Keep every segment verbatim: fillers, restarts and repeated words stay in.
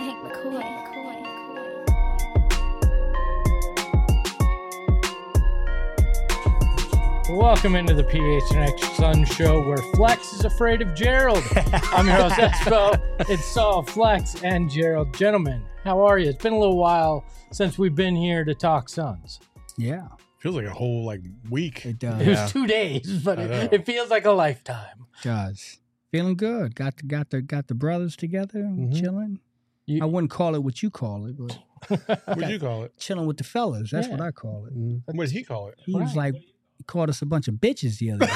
Hank McCoy. Welcome into the P H N X Sun Show, where Flex is afraid of Gerald. I'm your host, Espo. It's Saul, Flex, and Gerald. Gentlemen, how are you? It's been a little while since we've been here to talk Suns. Yeah. Feels like a whole like week. It does. It was Yeah. two days, but it, it feels like a lifetime. It does. Feeling good. Got the got the got the brothers together, Mhm. chilling. You- I wouldn't call it what you call it, but What'd you call it? chilling with the fellas. That's Yeah. what I call it. What did he call it? He was Right. like, he called us a bunch of bitches the other day.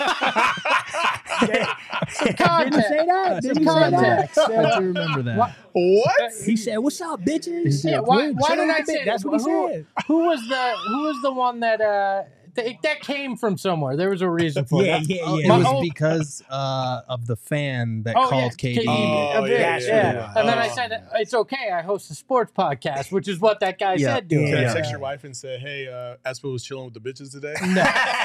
Context. Didn't he say that? Didn't he say that? Context. I do remember that. What? What? He said, "What's up, bitches?" Yeah, why- We're why chilling did I with the say bitch. That's what he who, said. Who was the Who was the one that uh th- that came from somewhere? There was a reason for Yeah, it. yeah, Oh, yeah. it My was own- because uh, of the fan that Oh, called yeah, K D. K D. Oh, a yeah, bitch, yeah, yeah. yeah. And then I Oh. said, it's okay, I host a sports podcast, which is what that guy Yeah. said to him. Can I Yeah. text your wife and say, hey, uh, Aspo was chilling with the bitches today? No.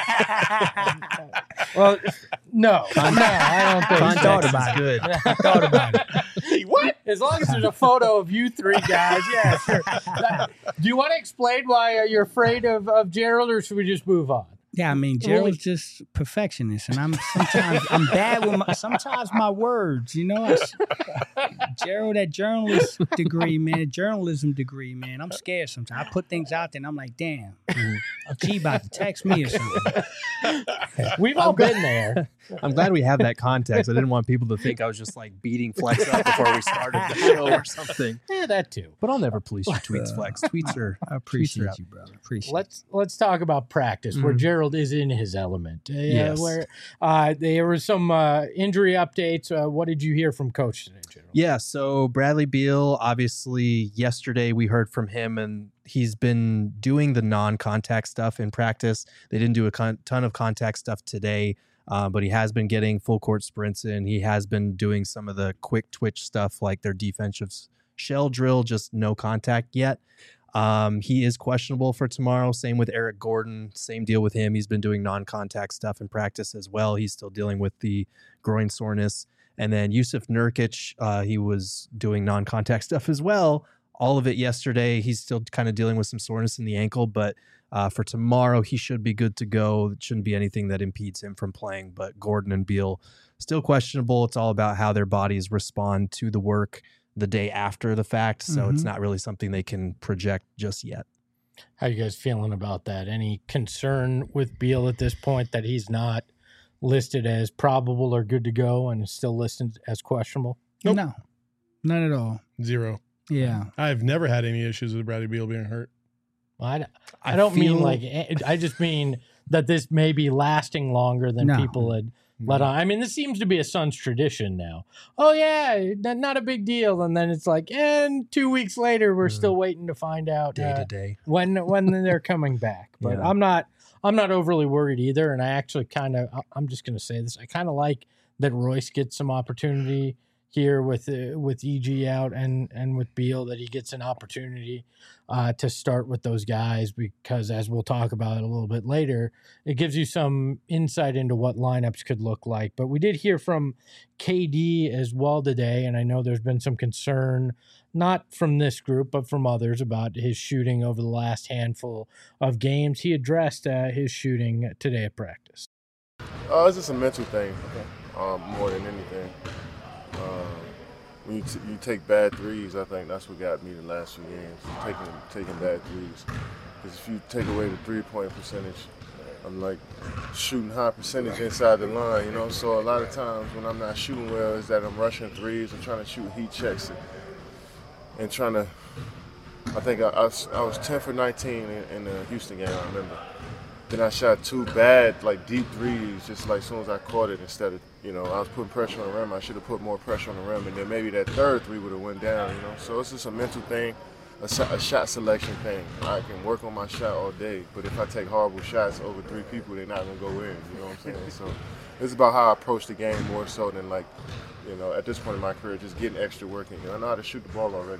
Well, no. No, I don't think I so. thought about it. Good. I thought about it. Hey, what? As long as there's a photo of you three guys, yeah, sure. Do you want to explain why uh, you're afraid of, of Gerald, or should we just move on? Yeah, I mean, Gerald's just perfectionist, and I'm sometimes I'm bad with my sometimes my words. You know, I s Gerald, that journalist degree, man, journalism degree, man. I'm scared sometimes. I put things out there, and I'm like, damn, G about to text me or something. We've all been there. I'm glad we have that context. I didn't want people to think I was just like beating Flex up before we started the show or something. Yeah, that too. But I'll never police your tweets, Flex. Tweets are. I appreciate out. you, brother. Appreciate. Let's let's talk about practice, where Mhm. Gerald is in his element. Uh, Yes. Where uh, there were some uh, injury updates. Uh, what did you hear from Coach today, Gerald? Yeah, so Bradley Beal, obviously, yesterday we heard from him, and he's been doing the non-contact stuff in practice. They didn't do a con- ton of contact stuff today, uh, but he has been getting full court sprints in. He has been doing some of the quick twitch stuff like their defensive shell drill, just no contact yet. Um, he is questionable for tomorrow. Same with Eric Gordon. Same deal with him. He's been doing non-contact stuff in practice as well. He's still dealing with the groin soreness. And then Yusuf Nurkic, uh, he was doing non-contact stuff as well. All of it yesterday. He's still kind of dealing with some soreness in the ankle, but uh, for tomorrow, he should be good to go. It shouldn't be anything that impedes him from playing. But Gordon and Beal, still questionable. It's all about how their bodies respond to the work the day after the fact. So it's Mhm. not really something they can project just yet. How you guys feeling about that? Any concern with Beal at this point that he's not listed as probable or good to go and is still listed as questionable? it. Nope. No, none at all. Zero. Yeah, I've never had any issues with Bradley Beal being hurt. I, I don't mean feel- like I just mean that this may be lasting longer than No. people had let on. I mean, this seems to be a Suns tradition now. Oh yeah, n- not a big deal, and then it's like, and two weeks later, we're Mm. still waiting to find out day uh, to day. when when they're coming back. But Yeah. I'm not I'm not overly worried either, and I actually kind of I'm just going to say this. I kind of like that Royce gets some opportunity here with uh, with E G out and and with Beal, that he gets an opportunity uh, to start with those guys, because as we'll talk about it a little bit later, it gives you some insight into what lineups could look like. But we did hear from K D as well today, and I know there's been some concern, not from this group, but from others, about his shooting over the last handful of games. He addressed uh, his shooting today at practice. Uh, it's just a mental thing, um, more than anything. Um, when you, t- you take bad threes, I think that's what got me the last few games, taking taking bad threes. Because if you take away the three-point percentage, I'm like shooting high percentage inside the line, you know. So a lot of times when I'm not shooting well, is that I'm rushing threes and trying to shoot heat checks and, and trying to. I think I, I, was, I was ten for nineteen in, in the Houston game, I remember. Then I shot two bad, like deep threes, just like as soon as I caught it. Instead of, you know, I was putting pressure on the rim. I should have put more pressure on the rim, and then maybe that third three would have went down. You know, so it's just a mental thing, a, shot, a shot selection thing. I can work on my shot all day, but if I take horrible shots over three people, they're not gonna go in. You know what I'm saying? So it's about how I approach the game more so than like, you know, at this point in my career, just getting extra work in. I know how to shoot the ball already.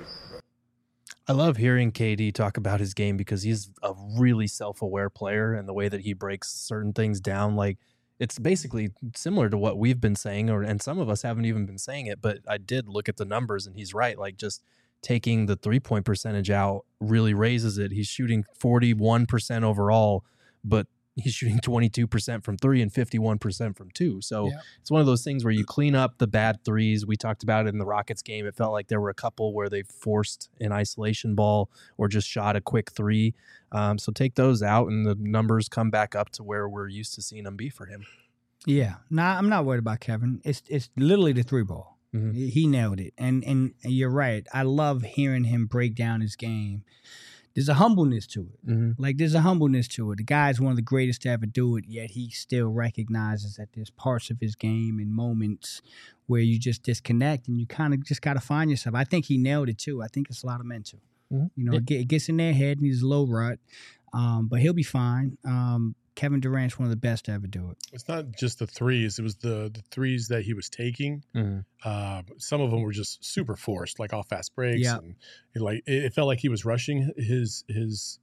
I love hearing K D talk about his game because he's a really self-aware player, and the way that he breaks certain things down, like it's basically similar to what we've been saying, or and some of us haven't even been saying it, but I did look at the numbers and he's right. Like just taking the three-point percentage out really raises it. He's shooting forty-one percent overall, but he's shooting twenty-two percent from three and fifty-one percent from two. So Yeah. it's one of those things where you clean up the bad threes. We talked about it in the Rockets game. It felt like there were a couple where they forced an isolation ball or just shot a quick three. Um, so take those out and the numbers come back up to where we're used to seeing them be for him. Yeah, nah, I'm not worried about Kevin. It's it's literally the three ball. Mhm. He he nailed it, and and you're right. I love hearing him break down his game. There's a humbleness to it. Mm-hmm. Like there's a humbleness to it. The guy's one of the greatest to ever do it, yet he still recognizes that there's parts of his game and moments where you just disconnect and you kind of just got to find yourself. I think he nailed it too. I think it's a lot of mental. Mhm. You know, it, get, it gets in their head and he's a low rut, um, but he'll be fine. Um, Kevin Durant's one of the best to ever do it. It's not just the threes; it was the the threes that he was taking. Mm-hmm. Uh, some of them were just super forced, like off fast breaks, Yeah. and it, like it, it felt like he was rushing his his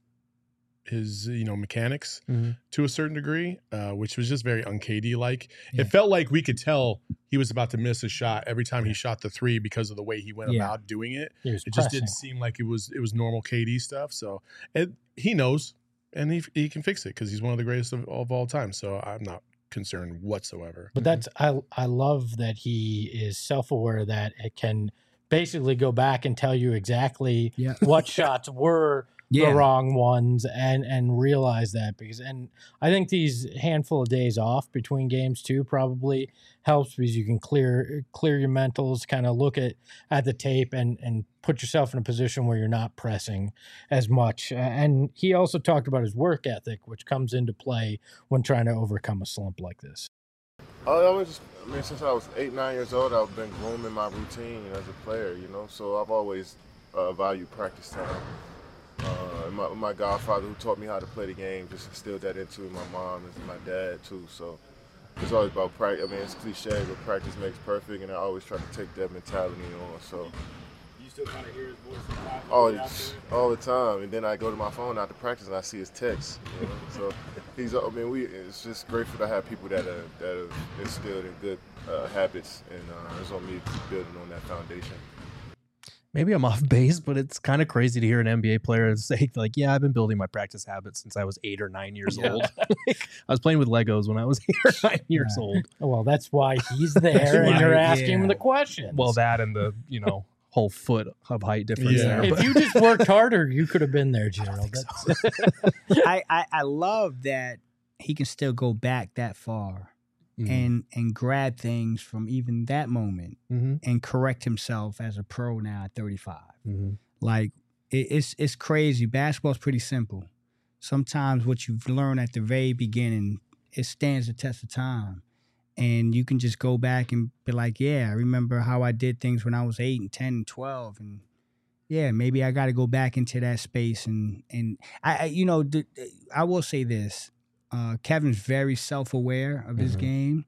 his you know mechanics Mm-hmm. to a certain degree, uh, which was just very un K D like. Yeah. It felt like we could tell he was about to miss a shot every time he shot the three because of the way he went Yeah. about doing it. He was It just pressing. didn't seem like it was it was normal K D stuff. So it, he knows, and he he can fix it because he's one of the greatest of, of all time. So I'm not concerned whatsoever. But that's I I love that he is self-aware that it can basically go back and tell you exactly Yeah. what shots were Yeah. the wrong ones and and realize that because and I think these handful of days off between games too probably helps because you can clear clear your mentals, kind of look at at the tape and and put yourself in a position where you're not pressing as much. Uh, and he also talked about his work ethic, which comes into play when trying to overcome a slump like this. Uh, I was just, I mean, since I was eight, nine years old, I've been grooming my routine as a player, you know. So I've always uh, valued practice time. Uh, and my, my godfather, who taught me how to play the game, just instilled that into me. My mom and my dad too. So it's always about practice. I mean, it's cliche, but practice makes perfect, and I always try to take that mentality on. So. You still kind of hear his voice in practice All, out there? all the time, and then I go to my phone after practice and I see his text. You know? So he's, I mean, we. It's just grateful to have people that are that have instilled in good uh, habits, and uh, it's on me to keep building on that foundation. Maybe I'm off base, but it's kind of crazy to hear an N B A player say, like, yeah, I've been building my practice habits since I was eight or nine years Yeah. old. Like, I was playing with Legos when I was eight or nine years old. Well, that's why he's there, and Right, you're asking yeah. him the questions. Well, that and the, you know, whole foot of height difference Yeah. there. if But you just worked harder, you could have been there, Gerald. That's, I, I, I love that he can still go back that far Mhm. and and grab things from even that moment Mhm. and correct himself as a pro now at thirty-five. Mhm. Like it, it's it's crazy. Basketball's pretty simple. Sometimes what you've learned at the very beginning, it stands the test of time. And you can just go back and be like, yeah, I remember how I did things when I was eight and ten and twelve. And yeah, maybe I got to go back into that space. And, and I, I you know, th- I will say this. Uh, Kevin's very self-aware of his Mhm. game.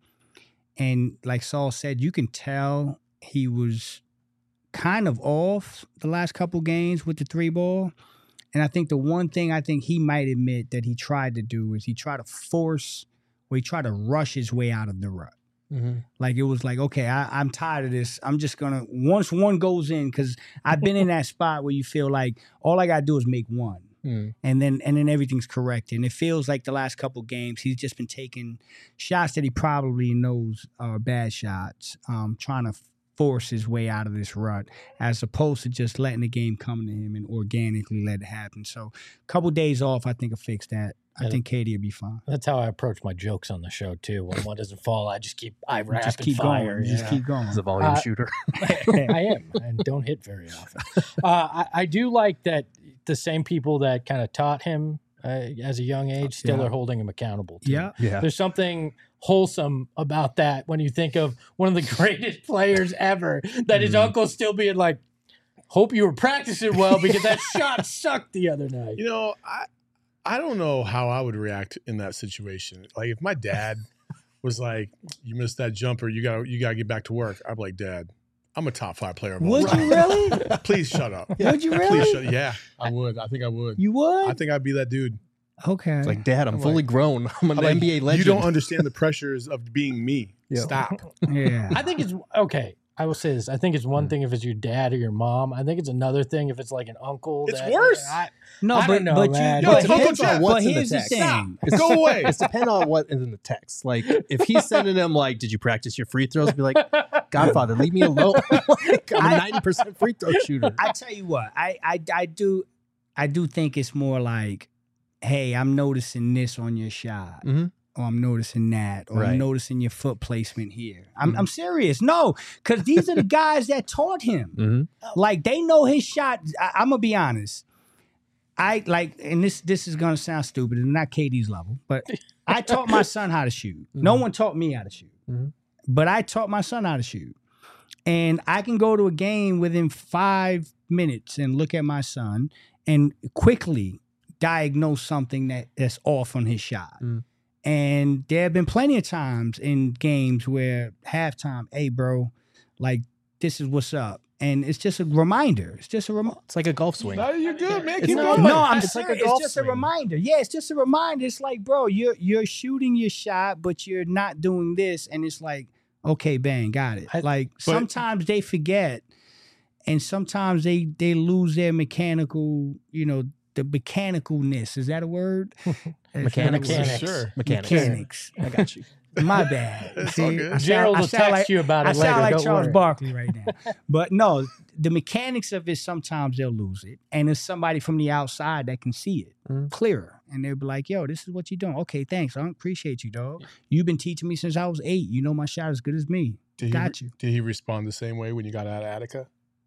And like Saul said, you can tell he was kind of off the last couple games with the three ball. And I think the one thing I think he might admit that he tried to do is he tried to force or he tried to rush his way out of the rut. Mhm. Like it was like, okay, I, I'm tired of this. I'm just gonna once one goes in, because I've been in that spot where you feel like all I gotta do is make one. Mhm. And then and then everything's correct. And it feels like the last couple games he's just been taking shots that he probably knows are bad shots, um, trying to force his way out of this rut, as opposed to just letting the game come to him and organically let it happen. So a couple days off, I think will fix that. I Yeah. think Katie will be fine. that's how I approach my jokes on the show too. When one doesn't fall, I just keep I rapid Just keep fire. going. you Just know? keep going. He's a volume Uh, shooter. I am, and don't hit very often. Uh, I, I do like that the same people that kind of taught him uh, as a young age still Yeah. are holding him accountable. Too. Yeah. Yeah. There's something wholesome about that when you think of one of the greatest players ever, that his Mhm. uncle still being like, hope you were practicing well because that shot sucked the other night. You know, I I don't know how I would react in that situation. Like if my dad was like, "You missed that jumper, you got to you got to get back to work," I'd be like, "Dad, I'm a top five player of all Would time. you really? Please shut up. Would you Please really? shut. Yeah, I would. I think I would. You would? I think I'd be that dude. Okay. It's like, Dad, I'm, I'm fully like- grown. I'm an I'm like, N B A legend. You don't understand the pressures of being me. Yeah. Stop. yeah. I think it's okay. I will say this. I think it's one thing if it's your dad or your mom. I think it's another thing if it's like an uncle. It's that, worse. I, No, I but don't know, but man. you, Yo, but Uncle here's, Jeff, but what's in the here's the text? thing. Go away. It's depending on what is in the text. Like if he's sending him like, "Did you practice your free throws?" Be like, "Godfather, leave me alone." Like, I'm a ninety percent free throw shooter. I tell you what, I, I I do I do think it's more like, hey, I'm noticing this on your shot. Mhm. Or I'm noticing that, or Right. I'm noticing your foot placement here. I'm, Mhm. I'm serious. No, because these are the guys that taught him. Mm-hmm. Like they know his shot. I, I'm gonna be honest. I like, and this this is gonna sound stupid, and not K D's level, but I taught my son how to shoot. No Mhm. one taught me how to shoot, Mhm. but I taught my son how to shoot. And I can go to a game within five minutes and look at my son and quickly diagnose something that, that's off on his shot. Mm. And there have been plenty of times in games where halftime, hey, bro, like this is what's up. And it's just a reminder. It's just a reminder. It's like a golf swing. No, you're good, man. It's Keep not- going. No, I'm It's like serious. a golf it's just swing. a reminder. Yeah, it's just a reminder. It's like, bro, you're you're shooting your shot, but you're not doing this. And it's like, okay, bang, got it. I- like sometimes they forget, and sometimes they they lose their mechanical, you know, the mechanicalness. Is that a word? Mechanics. Mechanics. Sure. Mechanics. Mechanics. I got you. My bad. It's all good. I sound- Gerald I will sound text like- you about I it later. sound like don't Charles worry. Barkley right now. But no, the mechanics of it, sometimes they'll lose it. And there's somebody from the outside that can see it Mhm. clearer. And they'll be like, yo, this is what you're doing. Okay, thanks. I appreciate you, dog. You've been teaching me since I was eight. You know my shot as good as me. Did he, Got you. Did he respond the same way when you got out of Attica?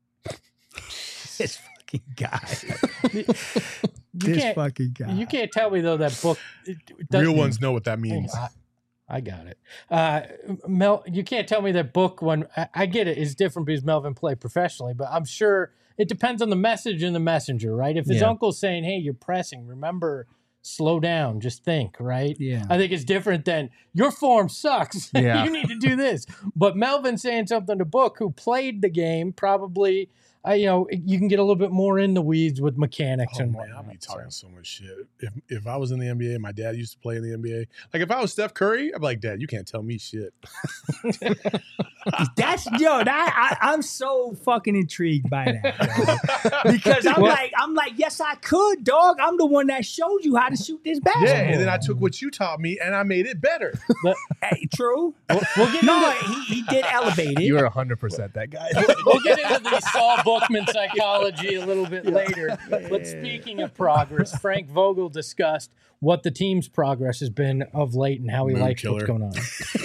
This fucking guy. You this can't, fucking guy. you can't tell me though that book. it- it doesn't- Real ones know what that Hang means. on, I, I got it. Uh, Mel, you can't tell me that book when I, I get it is different because Melvin played professionally, but I'm sure it depends on the message and the messenger, right? If his Yeah. uncle's saying, "Hey, you're pressing. Remember, slow down. Just think." Right? Yeah. I think it's different than your form sucks. Yeah. You need to do this. But Melvin saying something to Book, who played the game, probably. Uh, you know, you can get a little bit more in the weeds with mechanics Oh and man, whatnot. I'll be so. talking so much shit. If if I was in the N B A, my dad used to play in the N B A. Like if I was Steph Curry, I'd be like, Dad, you can't tell me shit. That's yo. That I, I'm so fucking intrigued by that, yo. Because I'm like, I'm like, yes, I could, dog. I'm the one that showed you how to shoot this Yeah, basketball. and then I took what you taught me and I made it better. Hey, true. We'll, we'll get No, into, he, he did elevate it. You are one hundred percent that guy. we'll get into the Saul Bookman psychology a little bit later. But speaking of progress, Frank Vogel discussed what the team's progress has been of late and how he Moon likes killer. what's going on.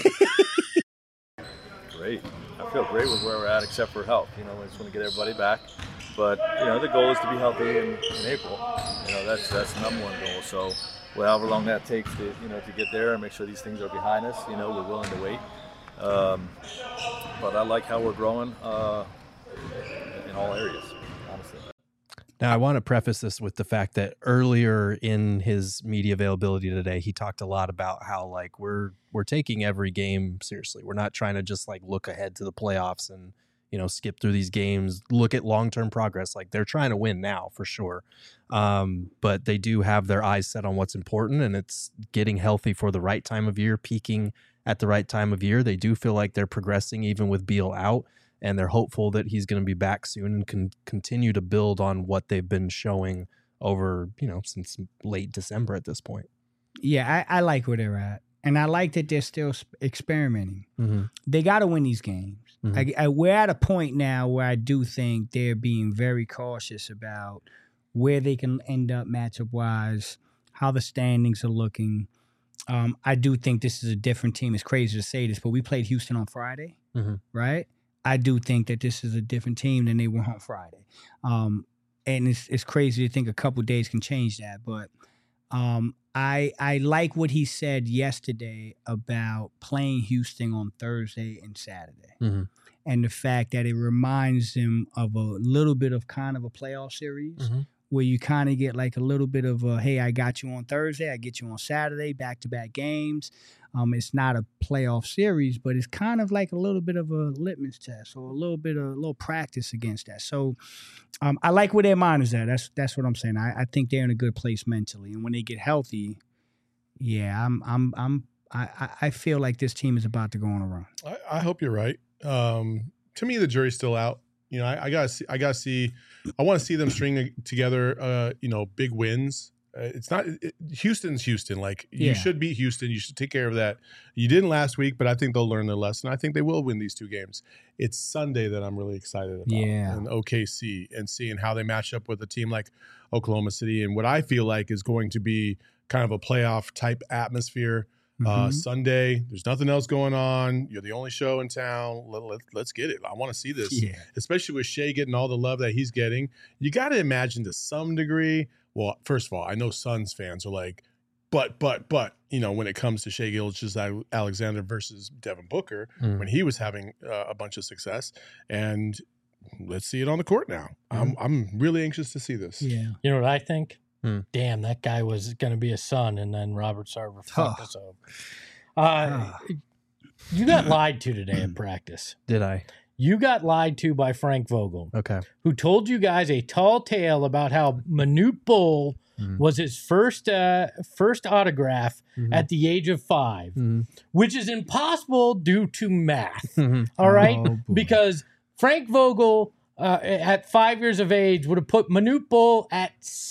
Great. I feel great with where we're at, except for health. You know, we just want to get everybody back. But you know, the goal is to be healthy in, in April. You know, that's that's the number one goal. So, well, however long that takes to you know to get there and make sure these things are behind us. You know, we're willing to wait. Um, but I like how we're growing uh, in all areas, honestly. Now, I want to preface this with the fact that earlier in his media availability today, he talked a lot about how like we're we're taking every game seriously. We're not trying to just like look ahead to the playoffs and you know skip through these games, look at long term progress. Like they're trying to win now for sure, um, but they do have their eyes set on what's important, and it's getting healthy for the right time of year, peaking at the right time of year. They do feel like they're progressing even with Beal out. And they're hopeful that he's going to be back soon and can continue to build on what they've been showing over, you know, since late December at this point. Yeah, I, I like where they're at, and I like that they're still sp- experimenting. Mm-hmm. They got to win these games. Mhm. I, I, we're at a point now where I do think they're being very cautious about where they can end up matchup wise, how the standings are looking. Um, I do think this is a different team. It's crazy to say this, but we played Houston on Friday, Mhm. right? I do think that this is a different team than they were on Friday. Um, and it's it's crazy to think a couple days can change that. But um, I I like what he said yesterday about playing Houston on Thursday and Saturday. Mhm. And the fact that it reminds him of a little bit of kind of a playoff series Mhm. where you kind of get like a little bit of a, hey, I got you on Thursday, I get you on Saturday, back-to-back games. Um, it's not a playoff series, but it's kind of like a little bit of a litmus test or a little bit of a little practice against that. So um, I like where their mind is at. That's that's what I'm saying. I, I think they're in a good place mentally, and when they get healthy, yeah, I'm I'm I'm I, I- I feel like this team is about to go on a run. I, I hope you're right. Um, to me, the jury's still out. You know, I, I gotta see. I gotta see. I want to see them string together. Uh, you know, big wins. Uh, it's not it, Houston's Houston. Like you Yeah. should beat Houston. You should take care of that. You didn't last week, but I think they'll learn their lesson. I think they will win these two games. It's Sunday that I'm really excited about. Yeah. And O K C and seeing how they match up with a team like Oklahoma City and what I feel like is going to be kind of a playoff type atmosphere. Uh, Mhm. Sunday, there's nothing else going on. You're the only show in town. Let, let, let's get it. I want to see this, Yeah. especially with Shea getting all the love that he's getting. You got to imagine to some degree. Well, first of all, I know Suns fans are like, but, but, but, you know, when it comes to Shea Gilgeous-Alexander versus Devin Booker, Mm. when he was having uh, a bunch of success, and let's see it on the court now. I'm, I'm really anxious to see this. Yeah. You know what I think? Hmm. Damn, that guy was going to be a son, and then Robert Sarver fucked Oh. us over. Uh, you got lied to today in practice. Did I? You got lied to by Frank Vogel, Okay. who told you guys a tall tale about how Manute Bol Mhm. was his first uh, first autograph Mhm. at the age of five, Mhm. which is impossible due to math. Mhm. All right, Oh, boy. because Frank Vogel uh, at five years of age would have put Manute Bol at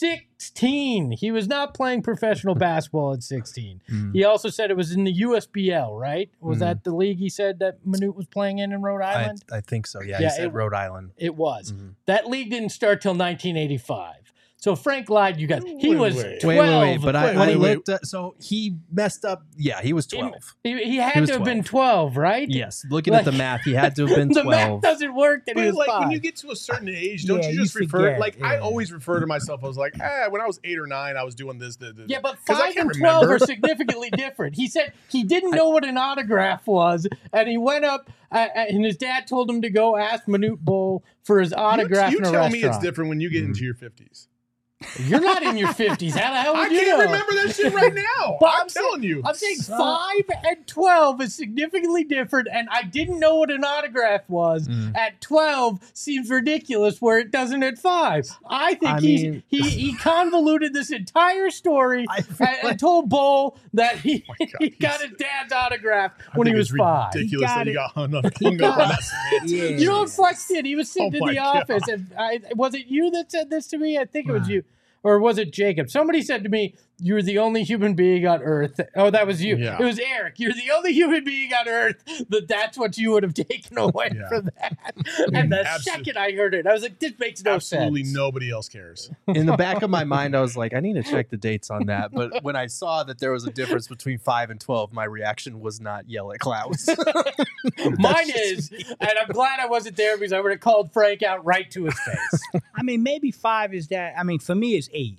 sixteen. He was not playing professional basketball at sixteen. Mhm. He also said it was in the U S B L, right? Was Mhm. that the league he said that Manute was playing in in Rhode I, Island? I think so. Yeah, Yeah, he said it- Rhode Island. It was. Mhm. That league didn't start till nineteen eighty-five. So Frank lied you guys. He Wait, was wait. twelve. Wait, wait, wait. But I, Wait, I wait, wait. looked at, so he messed up. Yeah, he was He- twelve. He, he had He was to have been twelve. twelve, right? Yes, looking Like- at the math, he had to have been the math twelve. doesn't work that he But was like five. when you get to a certain age, don't Yeah, you you just refer? forget, Like I yeah. always refer to myself. I was like, ah, when I was eight or nine, I was doing this. this, this Yeah, but 'Cause I five can't and twelve remember. are significantly different. He said he didn't know what an autograph was, and he went up, uh, and his dad told him to go ask Manute Bol for his autograph You, in you a tell restaurant. me it's different when you get into your fifties. You're not in your fifties. How the hell would I you can't know? remember that shit right now. But I'm, I'm saying- telling you. I'm saying Son. five and twelve is significantly different, and I didn't know what an autograph was. Mm. At twelve seems ridiculous where it doesn't at five. I think I he's, mean- he he convoluted this entire story I feel and, and like- told Bull that he, Oh my God, he got he's- his dad's autograph I when he think was it's five. ridiculous He got that he it. got hung, up- He hung up on got that it. semantics. Yeah. You know what Flex did? He was sitting Oh in the my God. office, and I, was it you that said this to me? I think it was Right. you. Or was it Jacob? Somebody said to me, "You're the only human being on Earth." Oh, that was you. Yeah. It was Eric. You're the only human being on Earth that that's what you would have taken away Yeah. from that. And the Absol- second I heard it, I was like, "This makes no Absolutely sense." nobody else cares. In the back of my mind, I was like, I need to check the dates on that. But when I saw that there was a difference between five and twelve, my reaction was not yell at Klaus. Mine is, and I'm glad I wasn't there because I would have called Frank out right to his face. I mean, maybe five is that. I mean, for me, it's eight.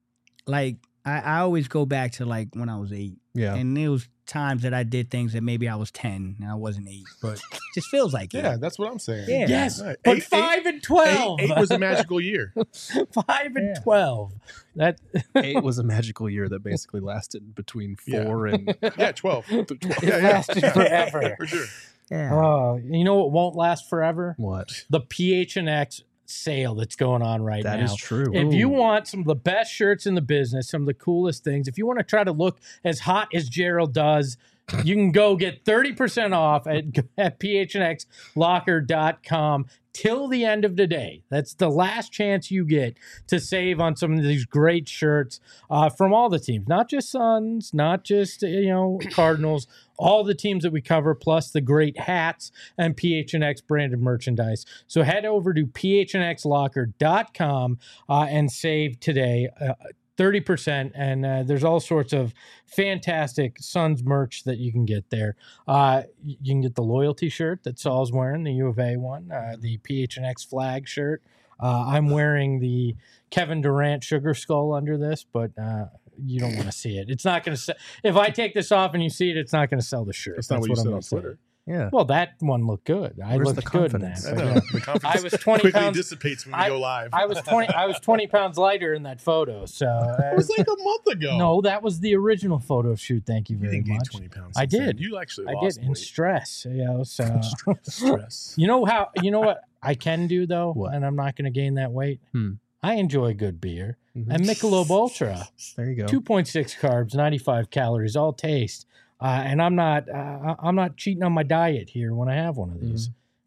Like, I, I always go back to like when I was eight. Yeah. And there was times that I did things that maybe I was ten and I wasn't eight. But it just feels like Yeah, it. that's what I'm saying. Yeah. Yes, Right. but Eight- five and twelve. Eight, eight was a magical year. five and Yeah. twelve. That Eight was a magical year that basically lasted between Yeah. four and Yeah, twelve. twelve. It Yeah, yeah. lasted forever. For sure. Yeah. Oh, you know what won't last forever? what? The P H N X sale that's going on right That now. is true. If you Ooh. want some of the best shirts in the business, some of the coolest things, if you want to try to look as hot as Gerald does, you can go get thirty percent off at, at P H N X locker dot com till the end of the day. That's the last chance you get to save on some of these great shirts uh, from all the teams, not just Suns, not just, you know, Cardinals, all the teams that we cover, plus the great hats and P H N X branded merchandise. So head over to P H N X locker dot com uh, and save today. Uh, thirty percent, and uh, there's all sorts of fantastic Suns merch that you can get there. Uh, y- you can get the loyalty shirt that Saul's wearing, the U of A one, uh, the P H N X flag shirt. Uh, I'm wearing the Kevin Durant sugar skull under this, but uh, you don't want to see it. It's not going to sell. If I take this off and you see it, it's not going to sell the shirt. That's not what you I'm said gonna on say. Twitter. Yeah. Well, that one looked good. I Where's looked the good in confidence? that. I but know. yeah. The confidence I was twenty quickly pounds- dissipates when we I- go live. I was twenty. I was twenty pounds lighter in that photo. So uh, It was like a month ago. no, that was the original photo shoot. Thank you you very didn't gain much. twenty pounds. I since then. did. You actually I lost did in weight. stress. You know, so Stress. you know how you know what I can do though, What? and I'm not going to gain that weight. Hmm. I enjoy good beer Mhm. and Michelob Ultra, There you go. two point six carbs, ninety-five calories, all taste. Uh, and I'm not uh, I'm not cheating on my diet here when I have one of these.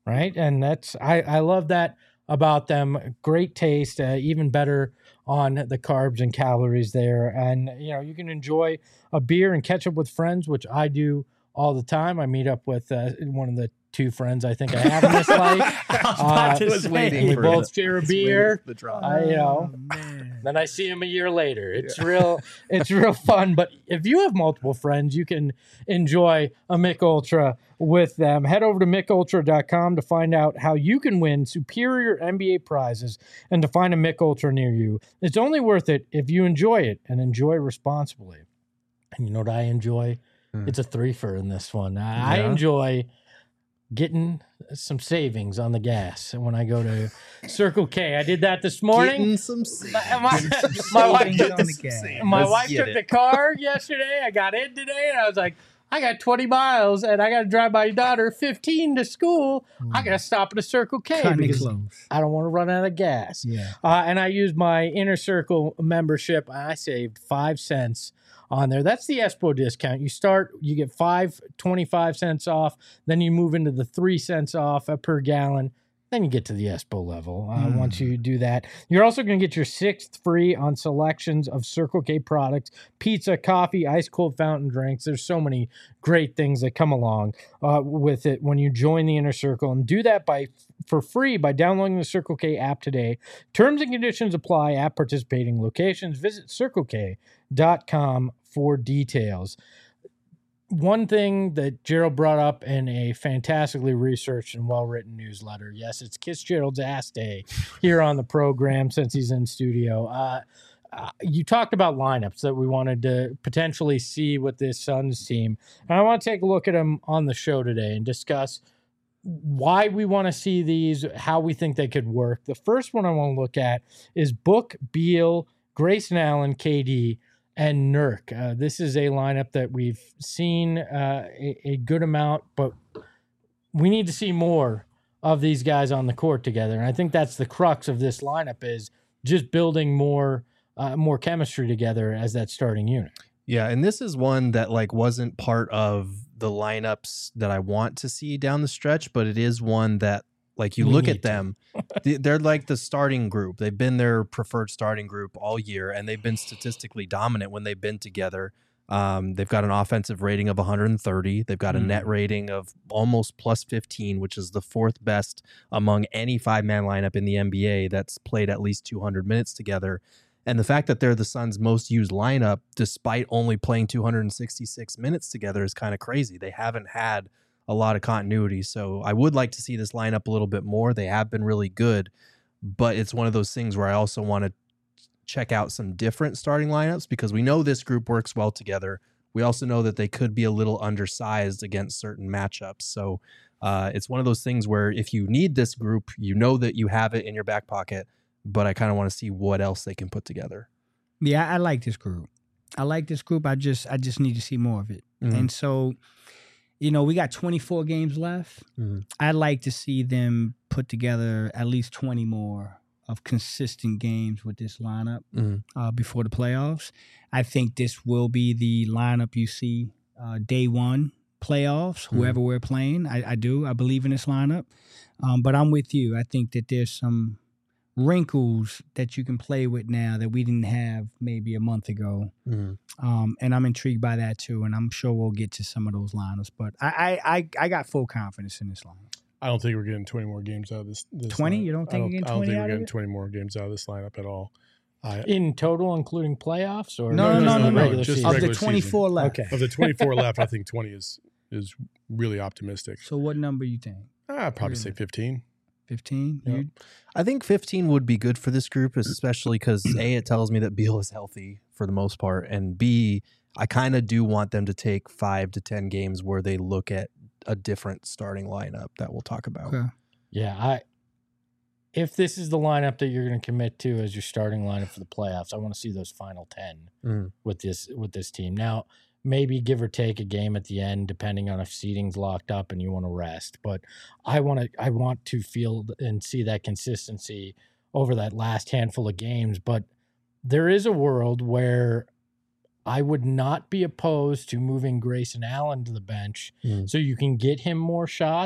right? And that's I I love that about them. Great taste, uh, even better on the carbs and calories there. And you know, you can enjoy a beer and catch up with friends, which I do all the time. I meet up with uh, one of the two friends I think I have in this life. I was about Uh, to was say. waiting we for both it. share a It's beer. waiting for the drop. I, you know, Oh, man. Then I see him a year later. It's real. It's real fun. But if you have multiple friends, you can enjoy a Mick Ultra with them. Head over to mick ultra dot com to find out how you can win superior N B A prizes and to find a Mick Ultra near you. It's only worth it if you enjoy it and enjoy responsibly. And you know what I enjoy? Mm. It's a threefer in this one. I Yeah. enjoy getting some savings on the gas when I go to Circle K. I did that this morning. Getting some My, my, my wife Savings took on the, the gas. my Let's wife get took it. the car yesterday. I got in today, and I was like, I got twenty miles, and I got to drive my daughter fifteen to school. I got to stop at a Circle K Cutting it because close. I don't want to run out of gas. Yeah. Uh, and I used my Inner Circle membership. I saved five cents on there. That's the Espo discount. You start, you get five, twenty-five cents off. Then you move into the three cents off per gallon. Then you get to the Espo level uh, Mm. once you do that. You're also going to get your sixth free on selections of Circle K products, pizza, coffee, ice cold fountain drinks. There's so many great things that come along uh, with it when you join the Inner Circle. And do that by for free by downloading the Circle K app today. Terms and conditions apply at participating locations. Visit circle k dot com for details. One thing that Gerald brought up in a fantastically researched and well-written newsletter. Yes, it's Kiss Gerald's Ass Day here on the program since he's in studio. Uh, uh, you talked about lineups that we wanted to potentially see with this Suns team. And I want to take a look at them on the show today and discuss why we want to see these, how we think they could work. The first one I want to look at is Book, Beal, Grayson Allen, K D, and Nurk. Uh, this is a lineup that we've seen uh, a, a good amount, but we need to see more of these guys on the court together. And I think that's the crux of this lineup is just building more uh, more chemistry together as that starting unit. Yeah, and this is one that like wasn't part of the lineups that I want to see down the stretch, but it is one that like you We look need at them, th- they're like the starting group. They've been their preferred starting group all year, and they've been statistically dominant when they've been together. Um, they've got an offensive rating of one hundred thirty. They've got a Mm. net rating of almost plus fifteen, which is the fourth best among any five-man lineup in the N B A that's played at least two hundred minutes together. And the fact that they're the Suns' most used lineup, despite only playing two hundred sixty-six minutes together, is kind of crazy. They haven't had a lot of continuity. So I would like to see this lineup a little bit more. They have been really good, but it's one of those things where I also want to check out some different starting lineups because we know this group works well together. We also know that they could be a little undersized against certain matchups. So uh, it's one of those things where if you need this group, you know that you have it in your back pocket, but I kind of want to see what else they can put together. Yeah, I like this group. I like this group. I just I just need to see more of it. Mhm. And so, you know, we got twenty-four games left. Mhm. I'd like to see them put together at least twenty more of consistent games with this lineup Mhm. uh, before the playoffs. I think this will be the lineup you see uh, day one playoffs, Mhm. whoever we're playing. I, I do. I believe in this lineup. Um, but I'm with you. I think that there's some wrinkles that you can play with now that we didn't have maybe a month ago. Mhm. Um, and I'm intrigued by that too. And I'm sure we'll get to some of those lineups. But I I, I, I got full confidence in this lineup. I don't think we're getting twenty more games out of this. this twenty? lineup. You don't think I you're getting I don't twenty think out we're of getting it? twenty more games out of this lineup at all. I, In total, including playoffs? Or No, no, no, no, no. regular just season? Of regular the twenty-four left. Okay. of the twenty-four left, I think twenty is is really optimistic. So what number you think? I'd probably say Really? fifteen. fifteen? Yeah. You- I think fifteen would be good for this group, especially because A, it tells me that Beal is healthy for the most part, and B, I kind of do want them to take five to ten games where they look at a different starting lineup that we'll talk about. Okay. Yeah, I. If this is the lineup that you're going to commit to as your starting lineup for the playoffs, I want to see those final ten Mm. with this with this team. Now, maybe give or take a game at the end, depending on if seating's locked up and you want to rest. But I want to I want to feel and see that consistency over that last handful of games. But there is a world where I would not be opposed to moving Grayson Allen to the bench Mm. so you can get him more shots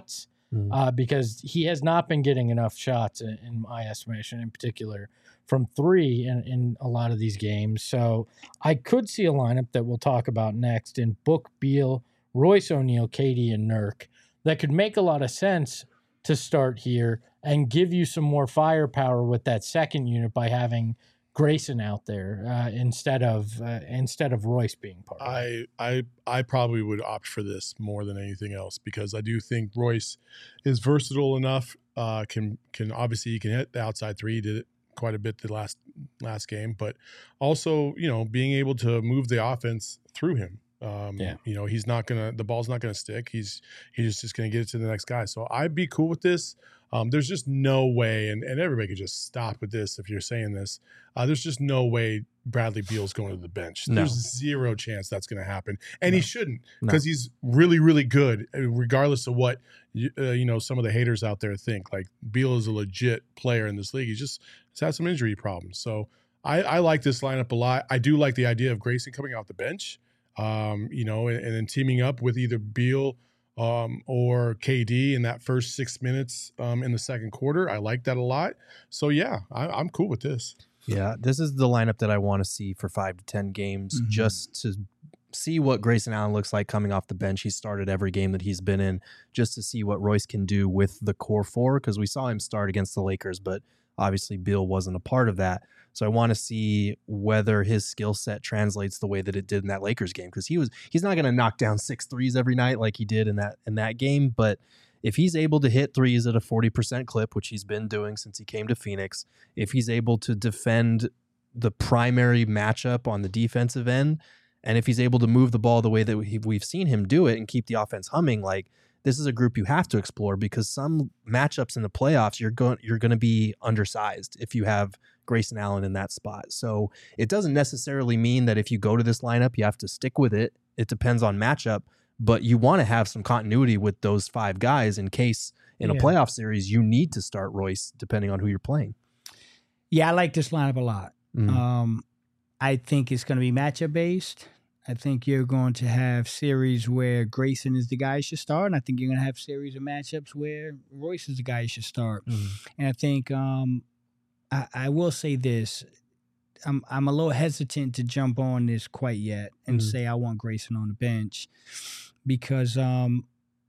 Mm. uh, because he has not been getting enough shots, in, in my estimation, in particular from three in, in a lot of these games. So I could see a lineup that we'll talk about next in Book, Beal, Royce O'Neal, K D, and Nurk that could make a lot of sense to start here and give you some more firepower with that second unit by having Grayson out there uh, instead of uh, instead of Royce being part of it. I I I probably would opt for this more than anything else because I do think Royce is versatile enough. Uh, can can obviously he can hit the outside three. He did it quite a bit the last last game, but also you know being able to move the offense through him. Um, Yeah. You know he's not gonna the ball's not gonna stick. He's he's just gonna get it to the next guy. So I'd be cool with this. Um, there's just no way, and, and everybody could just stop with this if you're saying this. Uh, there's just no way Bradley Beal's going to the bench. No. There's zero chance that's going to happen, and No. he shouldn't No. because he's really, really good, uh, regardless of what you, uh, you know some of the haters out there think. Like Beal is a legit player in this league. He's just he's had some injury problems, so I, I like this lineup a lot. I do like the idea of Grayson coming off the bench, um, you know, and, and then teaming up with either Beal. Um, or K D in that first six minutes um, in the second quarter. I like that a lot. So, yeah, I, I'm cool with this. Yeah, this is the lineup that I want to see for five to ten games, Mhm. just to see what Grayson Allen looks like coming off the bench. He started every game that he's been in, just to see what Royce can do with the core four, because we saw him start against the Lakers, but obviously Beal wasn't a part of that. So I want to see whether his skill set translates the way that it did in that Lakers game, because he was he's not going to knock down six threes every night like he did in that in that game, but if he's able to hit threes at a forty percent clip, which he's been doing since he came to Phoenix, if he's able to defend the primary matchup on the defensive end, and if he's able to move the ball the way that we- we've seen him do it and keep the offense humming, like this is a group you have to explore, because some matchups in the playoffs you're going you're going to be undersized if you have Grayson Allen in that spot. So it doesn't necessarily mean that if you go to this lineup you have to stick with it. It depends on matchup, but you want to have some continuity with those five guys in case in a Yeah. playoff series you need to start Royce depending on who you're playing. Yeah, I like this lineup a lot. Mm. Um, I think it's going to be matchup based. I think you're going to have series where Grayson is the guy you should start, and I think you're going to have series of matchups where Royce is the guy you should start. Mm. And I think um, I, I will say this: I'm I'm a little hesitant to jump on this quite yet and Mhm. say I want Grayson on the bench because um,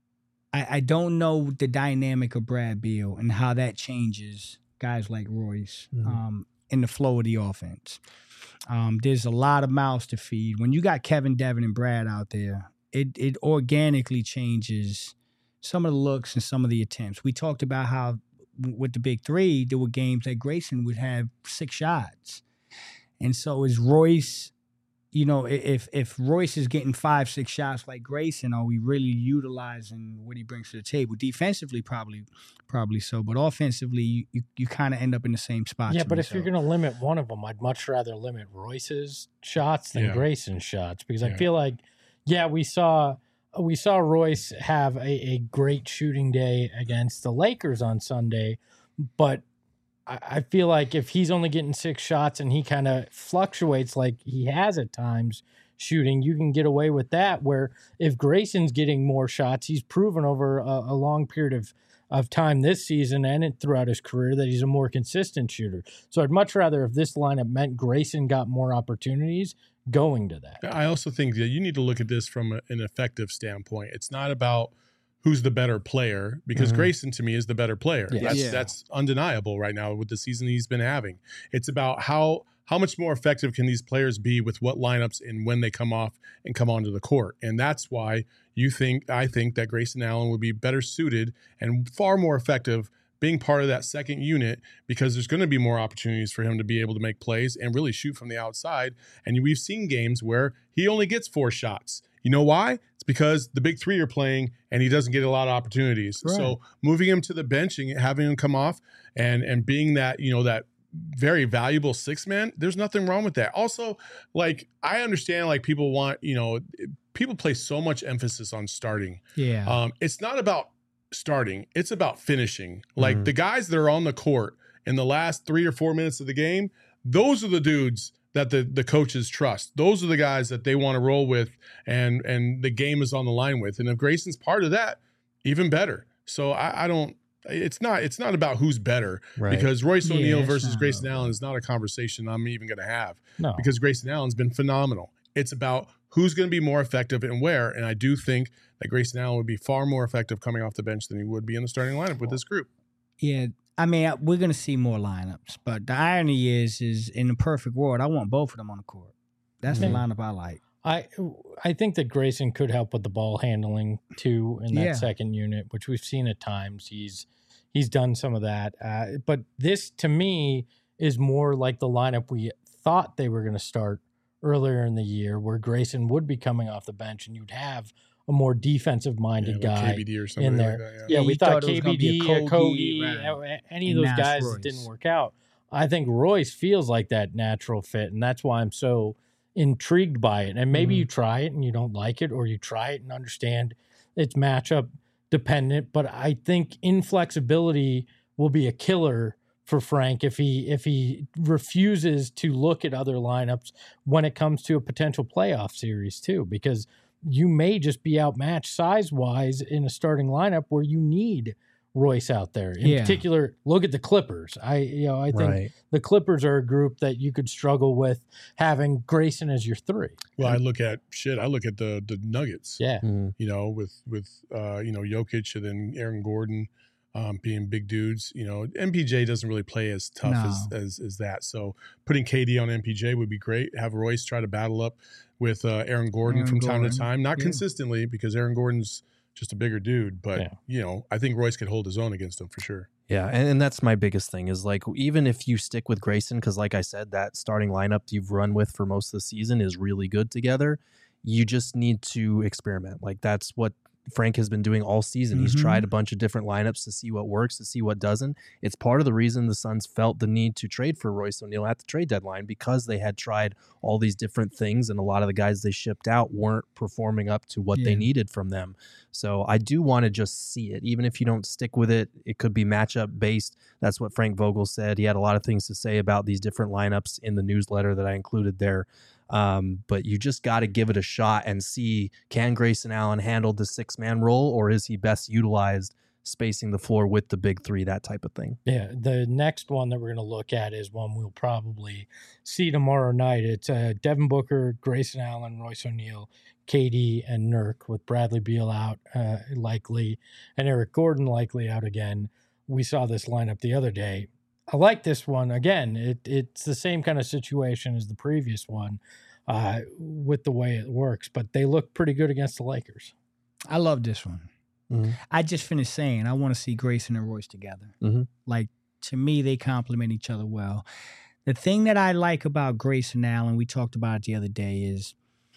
I, I don't know the dynamic of Brad Beal and how that changes guys like Royce Mhm. um, in the flow of the offense. Um, there's a lot of mouths to feed. When you got Kevin, Devin, and Brad out there, it it organically changes some of the looks and some of the attempts. We talked about how w- with the big three, there were games that Grayson would have six shots. And so is Royce, you know, i- if if Royce is getting five, six shots like Grayson, are we really utilizing what he brings to the table? Defensively, probably probably so. But offensively, you, you, you kind of end up in the same spot. Yeah, to but me, if you're so. going to limit one of them, I'd much rather limit Royce's shots than Yeah. Grayson's shots, because I Yeah. feel like, yeah, we saw we saw Royce have a, a great shooting day against the Lakers on Sunday, but I, I feel like if he's only getting six shots and he kind of fluctuates like he has at times shooting, you can get away with that. Where if Grayson's getting more shots, he's proven over a, a long period of of time this season and it, throughout his career that he's a more consistent shooter. So I'd much rather if this lineup meant Grayson got more opportunities going to that. I also think that you need to look at this from a, an effective standpoint. It's not about who's the better player, because Mhm. Grayson to me is the better player. Yes. That's Yeah. that's undeniable right now with the season he's been having. It's about how how much more effective can these players be with what lineups and when they come off and come onto the court. And that's why you think I think that Grayson Allen would be better suited and far more effective being part of that second unit, because there's going to be more opportunities for him to be able to make plays and really shoot from the outside. And we've seen games where he only gets four shots. You know why? It's because the big three are playing and he doesn't get a lot of opportunities. Right. So moving him to the bench and having him come off and and being that, you know, that very valuable six man, there's nothing wrong with that. Also, like I understand like people want, you know, people place so much emphasis on starting. Yeah. Um, it's not about starting, it's about finishing. Like Mhm. the guys that are on the court in the last three or four minutes of the game, those are the dudes that the the coaches trust. Those are the guys that they want to roll with and and the game is on the line with. And if Grayson's part of that, even better. So I, I don't. It's not. It's not about who's better Right. because Royce Yeah, O'Neal it's versus not Grayson about Allen that. is not a conversation I'm even going to have No. because Grayson Allen's been phenomenal. It's about who's going to be more effective and where. And I do think that Grayson Allen would be far more effective coming off the bench than he would be in the starting lineup with this group. Yeah, I mean, I- we're gonna see more lineups, but the irony is, is in the perfect world, I want both of them on the court. That's the Mhm. lineup I like. I I think that Grayson could help with the ball handling too in that Yeah. second unit, which we've seen at times. He's he's done some of that, uh, but this to me is more like the lineup we thought they were going to start earlier in the year, where Grayson would be coming off the bench, and you'd have a more defensive minded Yeah, like guy K B D or something in there. like that. Yeah. Yeah, Yeah, we you thought, thought it was gonna be a K B D, a Kogi, Kogi, right. uh, any And of those now it's guys Royce. that didn't work out. I think Royce feels like that natural fit, and that's why I'm so intrigued by it. And maybe Mhm. you try it and you don't like it, or you try it and understand it's matchup dependent. But I think inflexibility will be a killer for Frank if he if he refuses to look at other lineups when it comes to a potential playoff series too, because you may just be outmatched size wise in a starting lineup where you need Royce out there. In Yeah. particular, look at the Clippers. I you know I think Right. the Clippers are a group that you could struggle with having Grayson as your three. Well, I look at shit. I look at the the Nuggets. Yeah. Mhm. You know, with with uh, you know Jokic and then Aaron Gordon um, being big dudes. You know, M P J doesn't really play as tough as, No. as as that. So putting K D on M P J would be great. Have Royce try to battle up with uh, Aaron Gordon Aaron from time Gordon. to time, not Yeah. consistently because Aaron Gordon's just a bigger dude. But Yeah. you know, I think Royce could hold his own against him for sure. Yeah, and, and that's my biggest thing is like even if you stick with Grayson, because like I said, that starting lineup you've run with for most of the season is really good together. You just need to experiment. Like that's what Frank has been doing all season. He's Mhm. tried a bunch of different lineups to see what works, to see what doesn't. It's part of the reason the Suns felt the need to trade for Royce O'Neal at the trade deadline because they had tried all these different things and a lot of the guys they shipped out weren't performing up to what they Yeah. needed from them. So I do want to just see it. Even if you don't stick with it, it could be matchup based. That's what Frank Vogel said. He had a lot of things to say about these different lineups in the newsletter that I included there. Um, but you just got to give it a shot and see, can Grayson Allen handle the six man role or is he best utilized spacing the floor with the big three, that type of thing? Yeah, the next one that we're going to look at is one we'll probably see tomorrow night. It's uh, Devin Booker, Grayson Allen, Royce O'Neal, K D, and Nurk, with Bradley Beal out uh, likely, and Eric Gordon likely out again. We saw this lineup the other day. I like this one. Again, it, it's the same kind of situation as the previous one uh, with the way it works, but they look pretty good against the Lakers. I love this one. Mhm. I just finished saying I want to see Grayson and Royce together. Mhm. Like to me, they complement each other well. The thing that I like about Grayson Allen, we talked about it the other day, is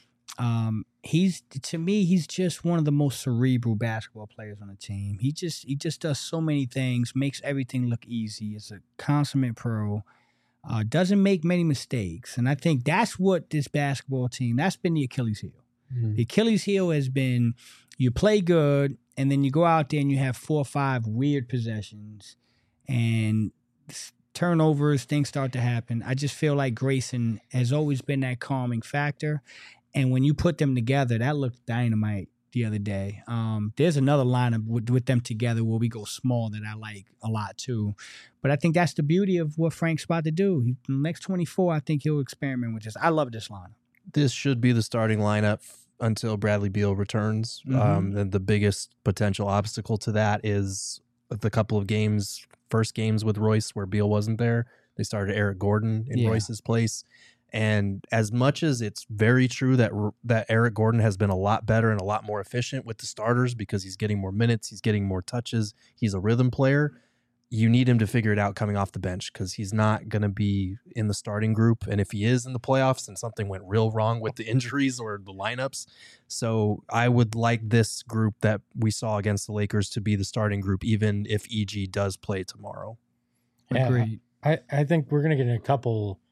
um, he's to me he's just one of the most cerebral basketball players on the team. He just he just does so many things, makes everything look easy. Is a consummate pro. Uh, doesn't make many mistakes, and I think that's what this basketball team. That's been the Achilles heel. The Achilles heel has been you play good and then you go out there and you have four or five weird possessions and s- turnovers, things start to happen. I just feel like Grayson has always been that calming factor. And when you put them together, that looked dynamite the other day. Um, there's another lineup with, with them together where we go small that I like a lot too. But I think that's the beauty of what Frank's about to do. He, the next twenty-four, I think he'll experiment with this. I love this lineup. This should be the starting lineup until Bradley Beal returns. Mhm. Um, and the biggest potential obstacle to that is the couple of games, first games with Royce where Beal wasn't there. They started Eric Gordon in Yeah. Royce's place. And as much as it's very true that that Eric Gordon has been a lot better and a lot more efficient with the starters because he's getting more minutes, he's getting more touches, he's a rhythm player, you need him to figure it out coming off the bench because he's not going to be in the starting group. And if he is in the playoffs and something went real wrong with the injuries or the lineups. So I would like this group that we saw against the Lakers to be the starting group, even if E G does play tomorrow. Yeah. Agreed. I, I think we're going to get a couple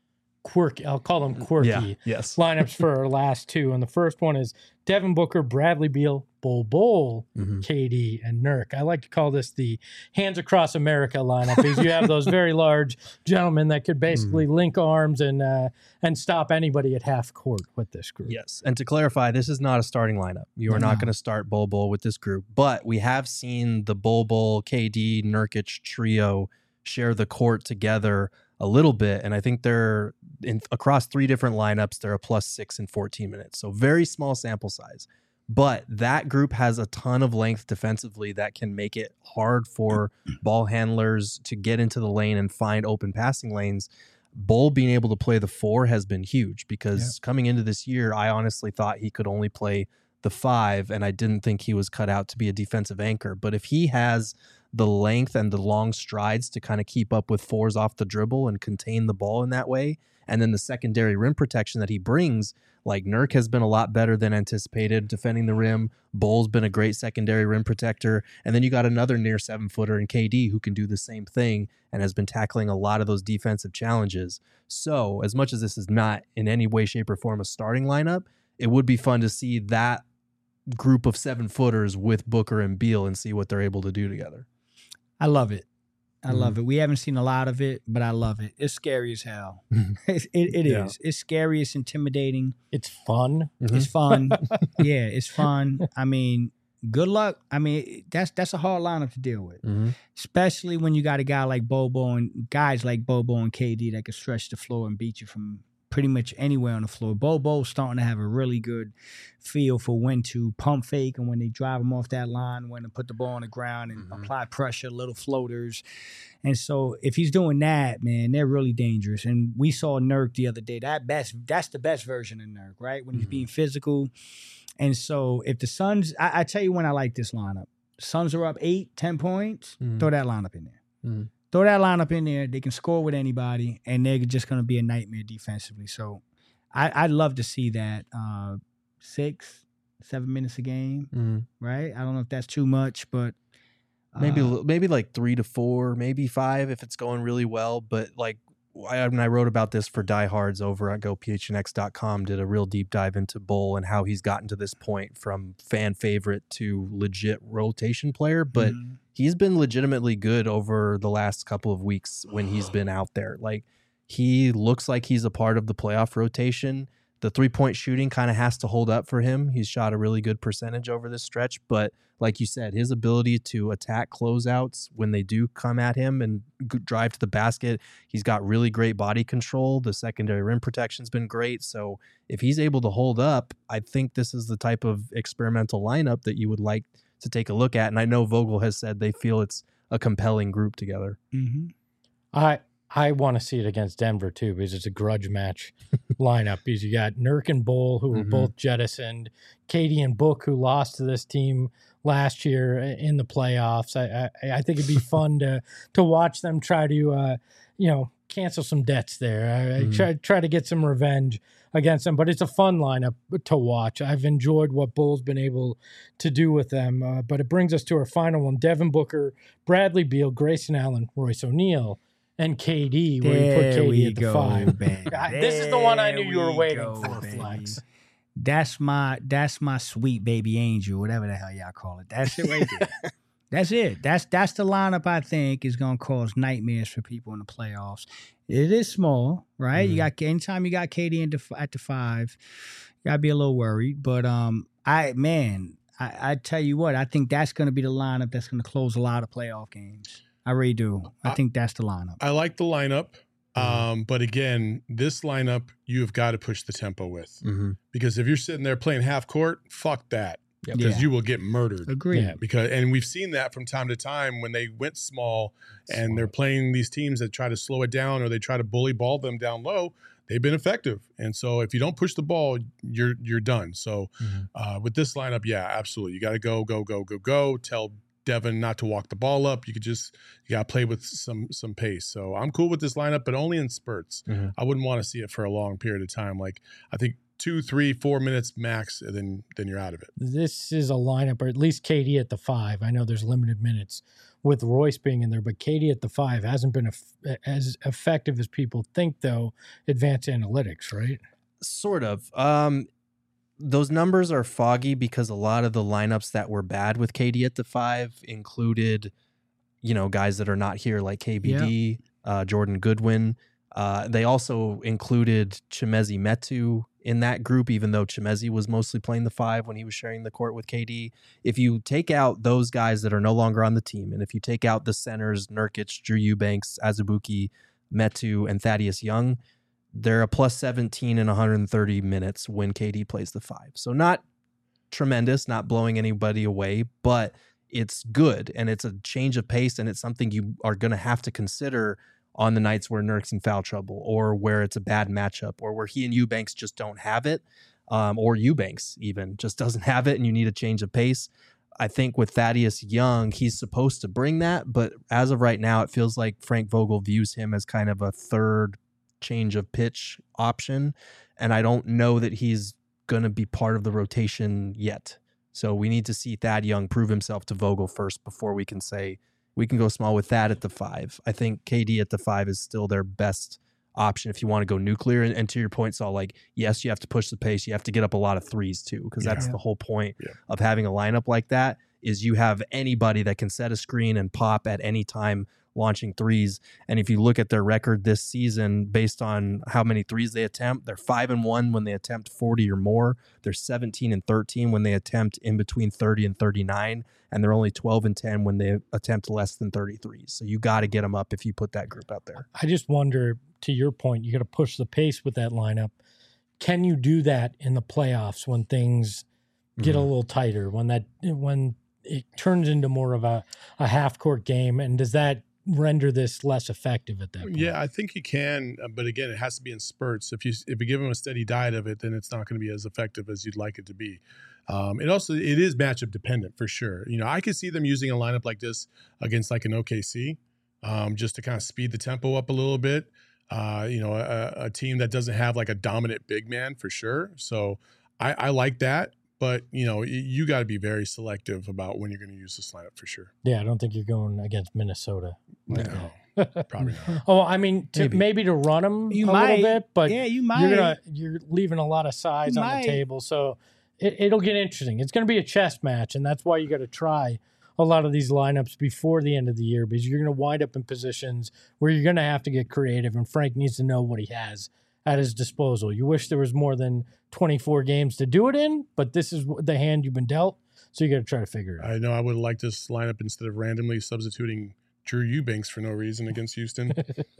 quirky. I'll call them quirky Yeah. Yes. lineups for our last two. And the first one is Devin Booker, Bradley Beal, Bol Bol, Mm-hmm. K D, and Nurk. I like to call this the hands across America lineup because you have those very large gentlemen that could basically Mm-hmm. link arms and uh, and stop anybody at half court with this group. Yes. And to clarify, this is not a starting lineup. You are No. not going to start Bol Bol with this group, but we have seen the Bol Bol, K D, Nurkic trio share the court together a little bit. And I think they're in across three different lineups, they're a plus six in fourteen minutes. So very small sample size. But that group has a ton of length defensively that can make it hard for ball handlers to get into the lane and find open passing lanes. Bol being able to play the four has been huge because coming into this year, I honestly thought he could only play the five, and I didn't think he was cut out to be a defensive anchor. But if he has the length and the long strides to kind of keep up with fours off the dribble and contain the ball in that way, and then the secondary rim protection that he brings, like Nurk has been a lot better than anticipated defending the rim. Bol's been a great secondary rim protector. And then you got another near seven footer in K D who can do the same thing and has been tackling a lot of those defensive challenges. So as much as this is not in any way, shape, or form a starting lineup, it would be fun to see that group of seven footers with Booker and Beal and see what they're able to do together. I love it. I Mhm. love it. We haven't seen a lot of it, but I love it. It's scary as hell. it it, it Yeah. is. It's scary. It's intimidating. It's fun. It's fun. Yeah, it's fun. I mean, good luck. I mean, that's that's a hard lineup to deal with, Mm-hmm. especially when you got a guy like Bobo and guys like Bobo and K D that can stretch the floor and beat you from pretty much anywhere on the floor. Bobo's starting to have a really good feel for when to pump fake and when they drive him off that line, when to put the ball on the ground and Mhm. apply pressure, little floaters. And so if he's doing that, man, they're really dangerous. And we saw Nurk the other day. That best, that's the best version of Nurk, right? When he's Mhm. being physical. And so if the Suns, I, I tell you when I like this lineup. Suns are up eight, ten points. Mhm. Throw that lineup in there. Mhm. Throw that lineup in there. They can score with anybody, and they're just going to be a nightmare defensively. So I, I'd love to see that uh, six, seven minutes a game, Mm-hmm. right? I don't know if that's too much, but uh, Maybe a li- maybe like three to four, maybe five if it's going really well. But like I, when I wrote about this for Diehards over at go p h n x dot com, did a real deep dive into Bol and how he's gotten to this point from fan favorite to legit rotation player. But mhm. he's been legitimately good over the last couple of weeks when he's been out there. Like he looks like he's a part of the playoff rotation. The three-point shooting kind of has to hold up for him. He's shot a really good percentage over this stretch, but like you said, his ability to attack closeouts when they do come at him and g- drive to the basket, he's got really great body control. The secondary rim protection's been great. So if he's able to hold up, I think this is the type of experimental lineup that you would like to take a look at. And I know Vogel has said they feel it's a compelling group together. Mhm. I I want to see it against Denver too because it's a grudge match lineup. Because you got Nurk and Bol who were Mhm. both jettisoned, Katie and Book who lost to this team last year in the playoffs. I I, I think it'd be fun to to watch them try to uh, you know cancel some debts there. I, I Mhm. try try to get some revenge against them. But it's a fun lineup to watch. I've enjoyed what Bol's been able to do with them. Uh, but it brings us to our final one: Devin Booker, Bradley Beal, Grayson Allen, Royce O'Neal. And K D, where you put There K D we at the go, five. baby. I- this is the one I knew There you were we waiting go, for, baby. Flex. That's my that's my sweet baby angel, whatever the hell y'all call it. That's it right there. That's it. That's that's the lineup I think is gonna cause nightmares for people in the playoffs. It is small, right? You got anytime you got K D in the, at the five, you gotta be a little worried. But um, I man, I, I tell you what, I think that's gonna be the lineup that's gonna close a lot of playoff games. I really do. I I- think that's the lineup. I like the lineup. Um, but again, this lineup you have got to push the tempo with Mm-hmm. because if you're sitting there playing half court, fuck that Yep. because Yeah. you will get murdered. Agree. Yeah. Because and we've seen that from time to time when they went small and they're playing these teams that try to slow it down or they try to bully ball them down low. They've been effective, and so if you don't push the ball, you're you're done. So Mhm. uh, with this lineup, yeah, absolutely, you got to go go go go go. Tell Devin not to walk the ball up. You could just you got to play with some some pace. So I'm cool with this lineup, but only in spurts. Mhm. I wouldn't want to see it for a long period of time. Like I think two, three, four minutes max, and then then you're out of it. This is a lineup, or at least K D at the five. I know there's limited minutes with Royce being in there, but K D at the five hasn't been a, as effective as people think, though. Advanced analytics, right? Sort of. Um, those numbers are foggy because a lot of the lineups that were bad with K D at the five included, you know, guys that are not here like K B D, yeah. uh, Jordan Goodwin. Uh, they also included Chimezie Metu in that group, even though Chimezie was mostly playing the five when he was sharing the court with K D. If you take out those guys that are no longer on the team, and if you take out the centers, Nurkic, Drew Eubanks, Azubuike, Metu, and Thaddeus Young, they're a plus seventeen in one hundred thirty minutes when K D plays the five. So not tremendous, not blowing anybody away, but it's good, and it's a change of pace, and it's something you are going to have to consider on the nights where Nurk's in foul trouble, or where it's a bad matchup, or where he and Eubanks just don't have it, um, or Eubanks even just doesn't have it, and you need a change of pace. I think with Thaddeus Young, he's supposed to bring that, but as of right now, it feels like Frank Vogel views him as kind of a third change of pitch option, and I don't know that he's going to be part of the rotation yet. So we need to see Thad Young prove himself to Vogel first before we can say we can go small with Thad at the five. I think K D at the five is still their best option if you want to go nuclear. And, and to your point, Saul, like, yes, you have to push the pace. You have to get up a lot of threes too, because that's yeah. the whole point yeah. of having a lineup like that, is you have anybody that can set a screen and pop at any time launching threes. And if you look at their record this season, based on how many threes they attempt, they're five and one when they attempt forty or more. They're seventeen and thirteen when they attempt in between thirty and thirty-nine. And they're only twelve and ten when they attempt less than thirty-three. So you got to get them up if you put that group out there. I just wonder, to your point, you got to push the pace with that lineup. Can you do that in the playoffs when things get mm-hmm. a little tighter, when that, when it turns into more of a, a half court game? And does that render this less effective at that point? Yeah, I think you can, but again, it has to be in spurts. If you if you give them a steady diet of it, then it's not going to be as effective as you'd like it to be. Um, it also it is matchup dependent for sure. You know, I could see them using a lineup like this against like an O K C, um, just to kind of speed the tempo up a little bit. Uh, you know, a, a team that doesn't have like a dominant big man for sure. So I, I like that. But, you know, you got to be very selective about when you're going to use this lineup for sure. Yeah, I don't think you're going against Minnesota. Like no, probably not. Oh, I mean, to, maybe. maybe to run them you a might. little bit, but yeah, you might. You're, gonna, you're leaving a lot of size you on might. the table. So it, it'll get interesting. It's going to be a chess match, and that's why you got to try a lot of these lineups before the end of the year, because you're going to wind up in positions where you're going to have to get creative, and Frank needs to know what he has at his disposal. You wish there was more than twenty-four games to do it in, but this is the hand you've been dealt, so you got to try to figure it out. I know I would have liked this lineup instead of randomly substituting Drew Eubanks for no reason against Houston.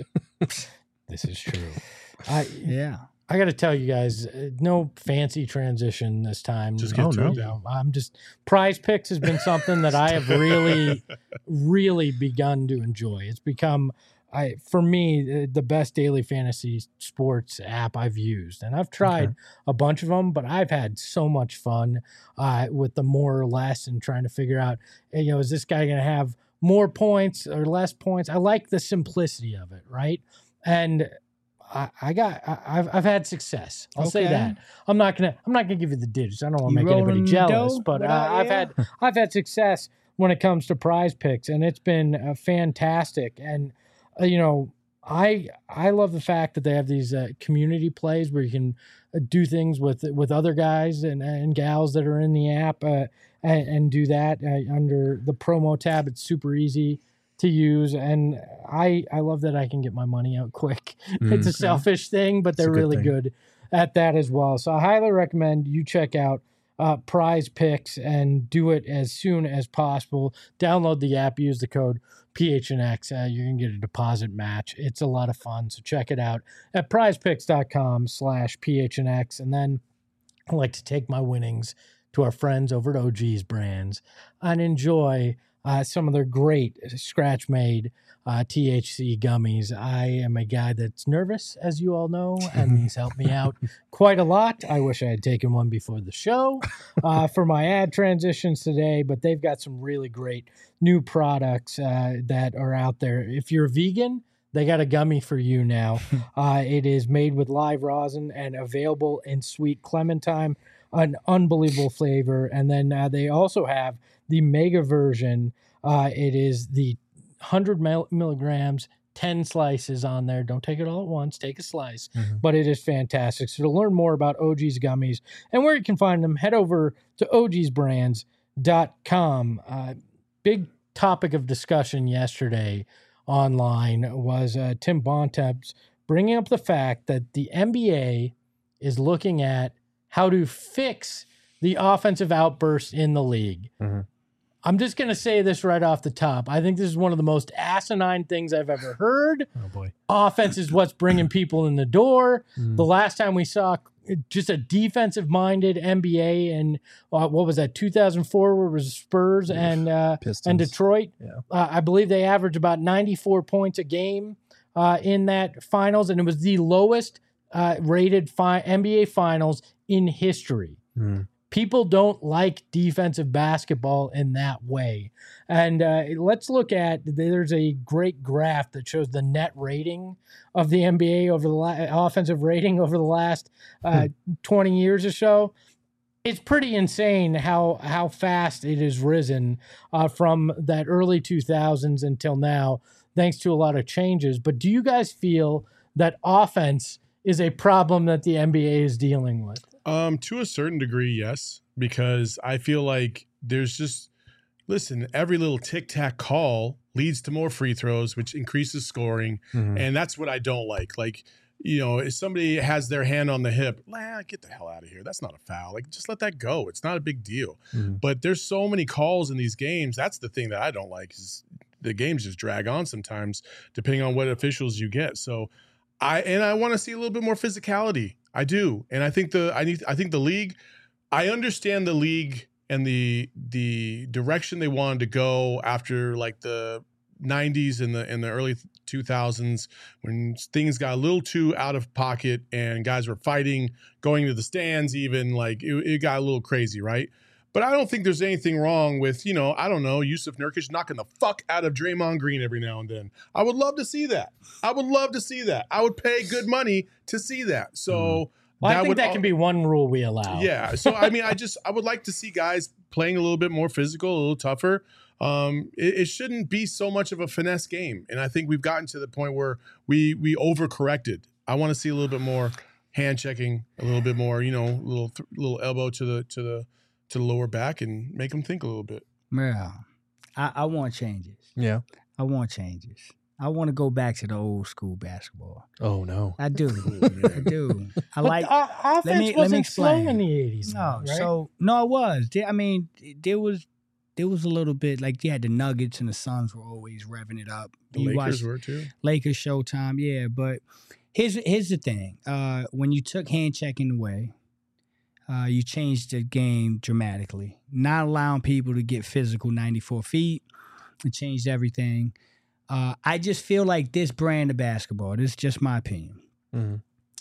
This is true. I yeah. I got to tell you guys, uh, no fancy transition this time. Just get oh, to no. it. You know, I'm just Prize Picks has been something that I have really, really begun to enjoy. It's become, I for me, the best daily fantasy sports app I've used, and I've tried okay. a bunch of them, but I've had so much fun uh, with the more or less and trying to figure out, you know, is this guy going to have more points or less points? I like the simplicity of it, right? And I, I got, I, I've, I've had success. I'll okay. say that. I'm not gonna, I'm not gonna give you the digits. I don't want to make anybody jealous, dough? but uh, uh, I've yeah. had, I've had success when it comes to Prize Picks, and it's been uh, fantastic. And uh, you know, I, I love the fact that they have these uh, community plays where you can uh, do things with with other guys and, and gals that are in the app, uh, and, and do that uh, under the promo tab. It's super easy to use, and I I love that I can get my money out quick. Mm, it's a selfish thing, but they're good really thing. good at that as well. So I highly recommend you check out uh, Prize Picks and do it as soon as possible. Download the app, use the code P H N X. Uh, you're gonna get a deposit match. It's a lot of fun, so check it out at prizepicks.com slash PHNX. And then I like to take my winnings to our friends over at O G's Brands and enjoy Uh, some of their great scratch-made uh, T H C gummies. I am a guy that's nervous, as you all know, and these help me out quite a lot. I wish I had taken one before the show uh, for my ad transitions today, but they've got some really great new products uh, that are out there. If you're a vegan, they got a gummy for you now. uh, it is made with live rosin and available in sweet clementine, an unbelievable flavor. And then uh, they also have the mega version. Uh, it is the one hundred milligrams, ten slices on there. Don't take it all at once. Take a slice. Mm-hmm. But it is fantastic. So to learn more about O G's gummies and where you can find them, head over to O Gs brands dot com. Uh, big topic of discussion yesterday online was uh, Tim Bontemps bringing up the fact that the N B A is looking at how to fix the offensive outbursts in the league. Mm-hmm. I'm just going to say this right off the top. I think this is one of the most asinine things I've ever heard. Oh, boy. Offense is what's bringing people in the door. Mm. The last time we saw just a defensive-minded N B A and uh, what was that, two thousand four, where it was Spurs and uh, and Detroit. Yeah. Uh, I believe they averaged about ninety-four points a game uh, in that finals, and it was the lowest uh, rated fi- N B A finals in history. Mm. People don't like defensive basketball in that way. And uh, let's look at, there's a great graph that shows the net rating of the N B A over the la- offensive rating over the last uh, hmm. twenty years or so. It's pretty insane how how fast it has risen uh, from that early two thousands until now, thanks to a lot of changes. But do you guys feel that offense is a problem that the N B A is dealing with? Um, to a certain degree, yes, because I feel like there's just, listen, every little tic-tac call leads to more free throws, which increases scoring, mm-hmm. and that's what I don't like. Like, you know, if somebody has their hand on the hip, nah, get the hell out of here. That's not a foul. Like, just let that go. It's not a big deal. Mm-hmm. But there's so many calls in these games. That's the thing that I don't like, is the games just drag on sometimes, depending on what officials you get. So I and I want to see a little bit more physicality. I do. And I think the I need I think the league, I understand the league and the the direction they wanted to go after like the nineties and the in the early two thousands, when things got a little too out of pocket and guys were fighting, going to the stands even, like it, it got a little crazy, right? But I don't think there's anything wrong with, you know, I don't know, Yusuf Nurkic knocking the fuck out of Draymond Green every now and then. I would love to see that. I would love to see that. I would pay good money to see that. So mm. well, that I think would that all, can be one rule we allow. Yeah. So, I mean, I just, I would like to see guys playing a little bit more physical, a little tougher. Um, it, it shouldn't be so much of a finesse game. And I think we've gotten to the point where we, we overcorrected. I want to see a little bit more hand checking, a little bit more, you know, little, th- little elbow to the, to the, to the lower back and make them think a little bit. Yeah, I, I want changes. Yeah. I want changes. I want to go back to the old school basketball. Oh, no. I do. I do. I but like the, uh, offense let me, wasn't let me explain. slow in the eighties. No, right? so, no, it was. There, I mean, there was there was a little bit, like, you had the Nuggets and the Suns were always revving it up. The you Lakers were too. Lakers Showtime, yeah. But here's, here's the thing. Uh, when you took hand checking away, Uh, you changed the game dramatically. Not allowing people to get physical ninety-four feet. It changed everything. Uh, I just feel like this brand of basketball, this is just my opinion. Mm-hmm.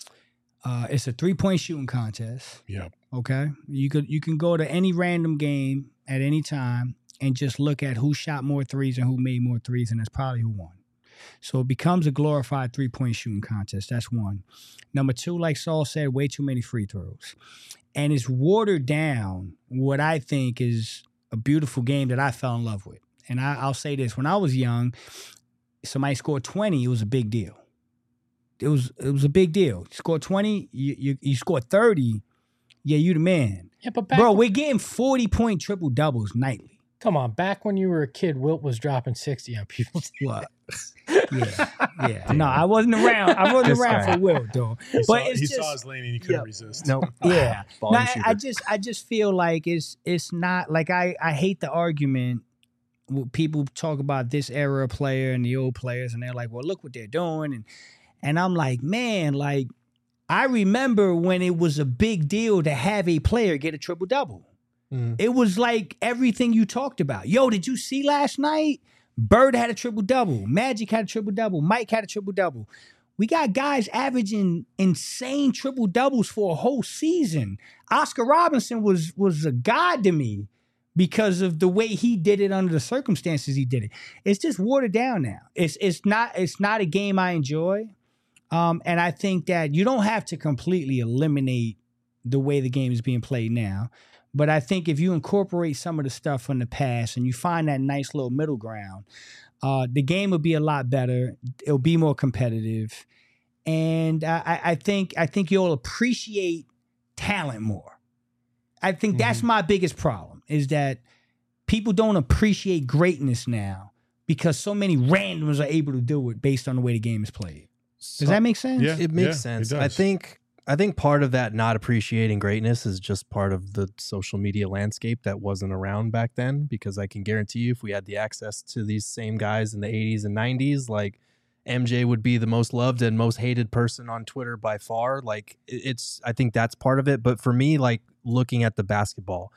Uh, it's a three-point shooting contest. Yep. Okay? You could you can go to any random game at any time and just look at who shot more threes and who made more threes, and that's probably who won. So it becomes a glorified three-point shooting contest. That's one. Number two, like Saul said, way too many free throws. And it's watered down what I think is a beautiful game that I fell in love with. And I, I'll say this. When I was young, somebody scored twenty, it was a big deal. It was it was a big deal. You scored twenty, you, you, you scored thirty, yeah, you the man. Yeah, but back Bro, when, we're getting forty-point triple-doubles nightly. Come on, back when you were a kid, Wilt was dropping sixty on people. What? Yeah, yeah. No, I wasn't around. I wasn't around for Wilt, though. He, but saw, it's he just, saw his lane and he couldn't yeah. resist. Nope. Yeah. no, Volume I, shooter. I just I just feel like it's it's not like I, I hate the argument when people talk about this era player and the old players and they're like, well, look what they're doing. And and I'm like, man, like I remember when it was a big deal to have a player get a triple double. Mm. It was like everything you talked about. Yo, did you see last night? Bird had a triple-double. Magic had a triple-double. Mike had a triple-double. We got guys averaging insane triple-doubles for a whole season. Oscar Robinson was, was a god to me because of the way he did it under the circumstances he did it. It's just watered down now. It's it's not it's not a game I enjoy. Um, and I think that you don't have to completely eliminate the way the game is being played now. But I think if you incorporate some of the stuff from the past and you find that nice little middle ground, uh, the game will be a lot better. It'll be more competitive. And I, I think I think you'll appreciate talent more. I think that's Mm-hmm. my biggest problem, is that people don't appreciate greatness now because so many randoms are able to do it based on the way the game is played. Does that make sense? Yeah. It makes it sense. I does. think I think part of that not appreciating greatness is just part of the social media landscape that wasn't around back then, because I can guarantee you if we had the access to these same guys in the eighties and nineties, like M J would be the most loved and most hated person on Twitter by far. Like it- it's I think that's part of it. But for me, like looking at the basketball,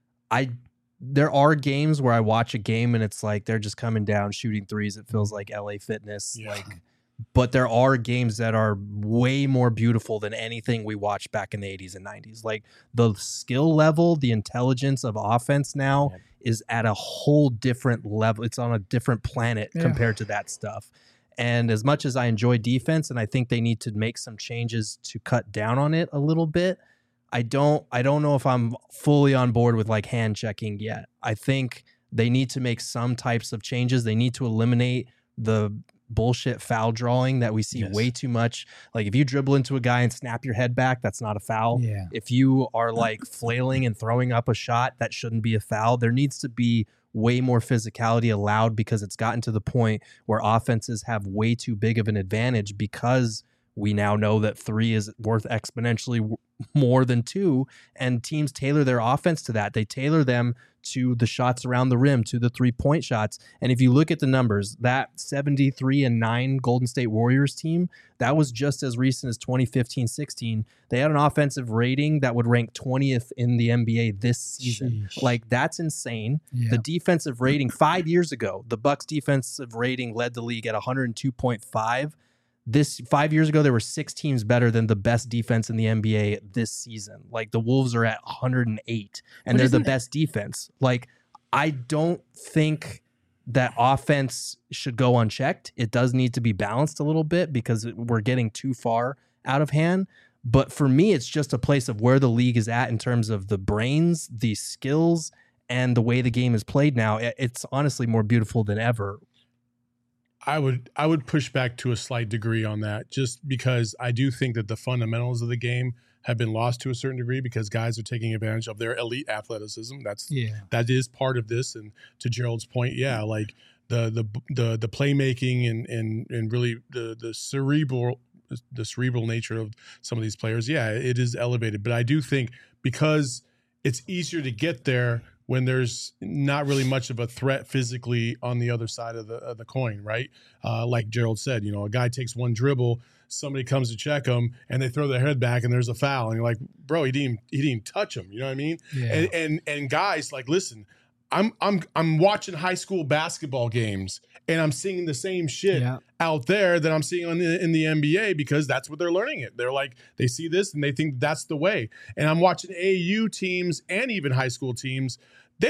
I there are games where I watch a game and it's like they're just coming down shooting threes. It feels like L A Fitness. Yeah. Like but there are games that are way more beautiful than anything we watched back in the eighties and nineties. Like the skill level, the intelligence of offense now Yep. is at a whole different level. It's on a different planet Yeah. compared to that stuff. And as much as I enjoy defense and I think they need to make some changes to cut down on it a little bit, I don't I don't know if I'm fully on board with like hand checking yet. I think they need to make some types of changes. They need to eliminate the bullshit foul drawing that we see Yes. way too much. Like if you dribble into a guy and snap your head back, that's not a foul. Yeah. If you are like flailing and throwing up a shot, that shouldn't be a foul. There needs to be way more physicality allowed, because it's gotten to the point where offenses have way too big of an advantage, because we now know that three is worth exponentially w- more than two, and teams tailor their offense to that. They tailor them to the shots around the rim, to the three-point shots. And if you look at the numbers, that seventy-three and nine Golden State Warriors team, that was just as recent as twenty fifteen sixteen. They had an offensive rating that would rank twentieth in the N B A this season. Sheesh. Like, that's insane. Yeah. The defensive rating five years ago, the Bucks defensive rating led the league at one hundred two point five. This five years ago, there were six teams better than the best defense in the N B A this season. Like the Wolves are at one hundred eight, and But they're the isn't it- best defense. Like I don't think that offense should go unchecked. It does need to be balanced a little bit, because it- we're getting too far out of hand. But for me, it's just a place of where the league is at in terms of the brains, the skills, and the way the game is played now. It- It's honestly more beautiful than ever. I would I would push back to a slight degree on that, just because I do think that the fundamentals of the game have been lost to a certain degree, because guys are taking advantage of their elite athleticism. That's Yeah. that is part of this. And to Gerald's point, yeah, like the the the the playmaking and and and really the the cerebral the cerebral nature of some of these players, yeah, it is elevated. But I do think because it's easier to get there when there's not really much of a threat physically on the other side of the of the coin, right? Uh, like Gerald said, you know, a guy takes one dribble, somebody comes to check him, and they throw their head back, and there's a foul, and you're like, bro, he didn't he didn't touch him, you know what I mean? Yeah. And and and guys, like, listen, I'm I'm I'm watching high school basketball games, and I'm seeing the same shit Yeah. out there that I'm seeing on the, in the N B A, because that's what they're learning it. They're like, they see this and they think that's the way. And I'm watching A A U teams and even high school teams. They,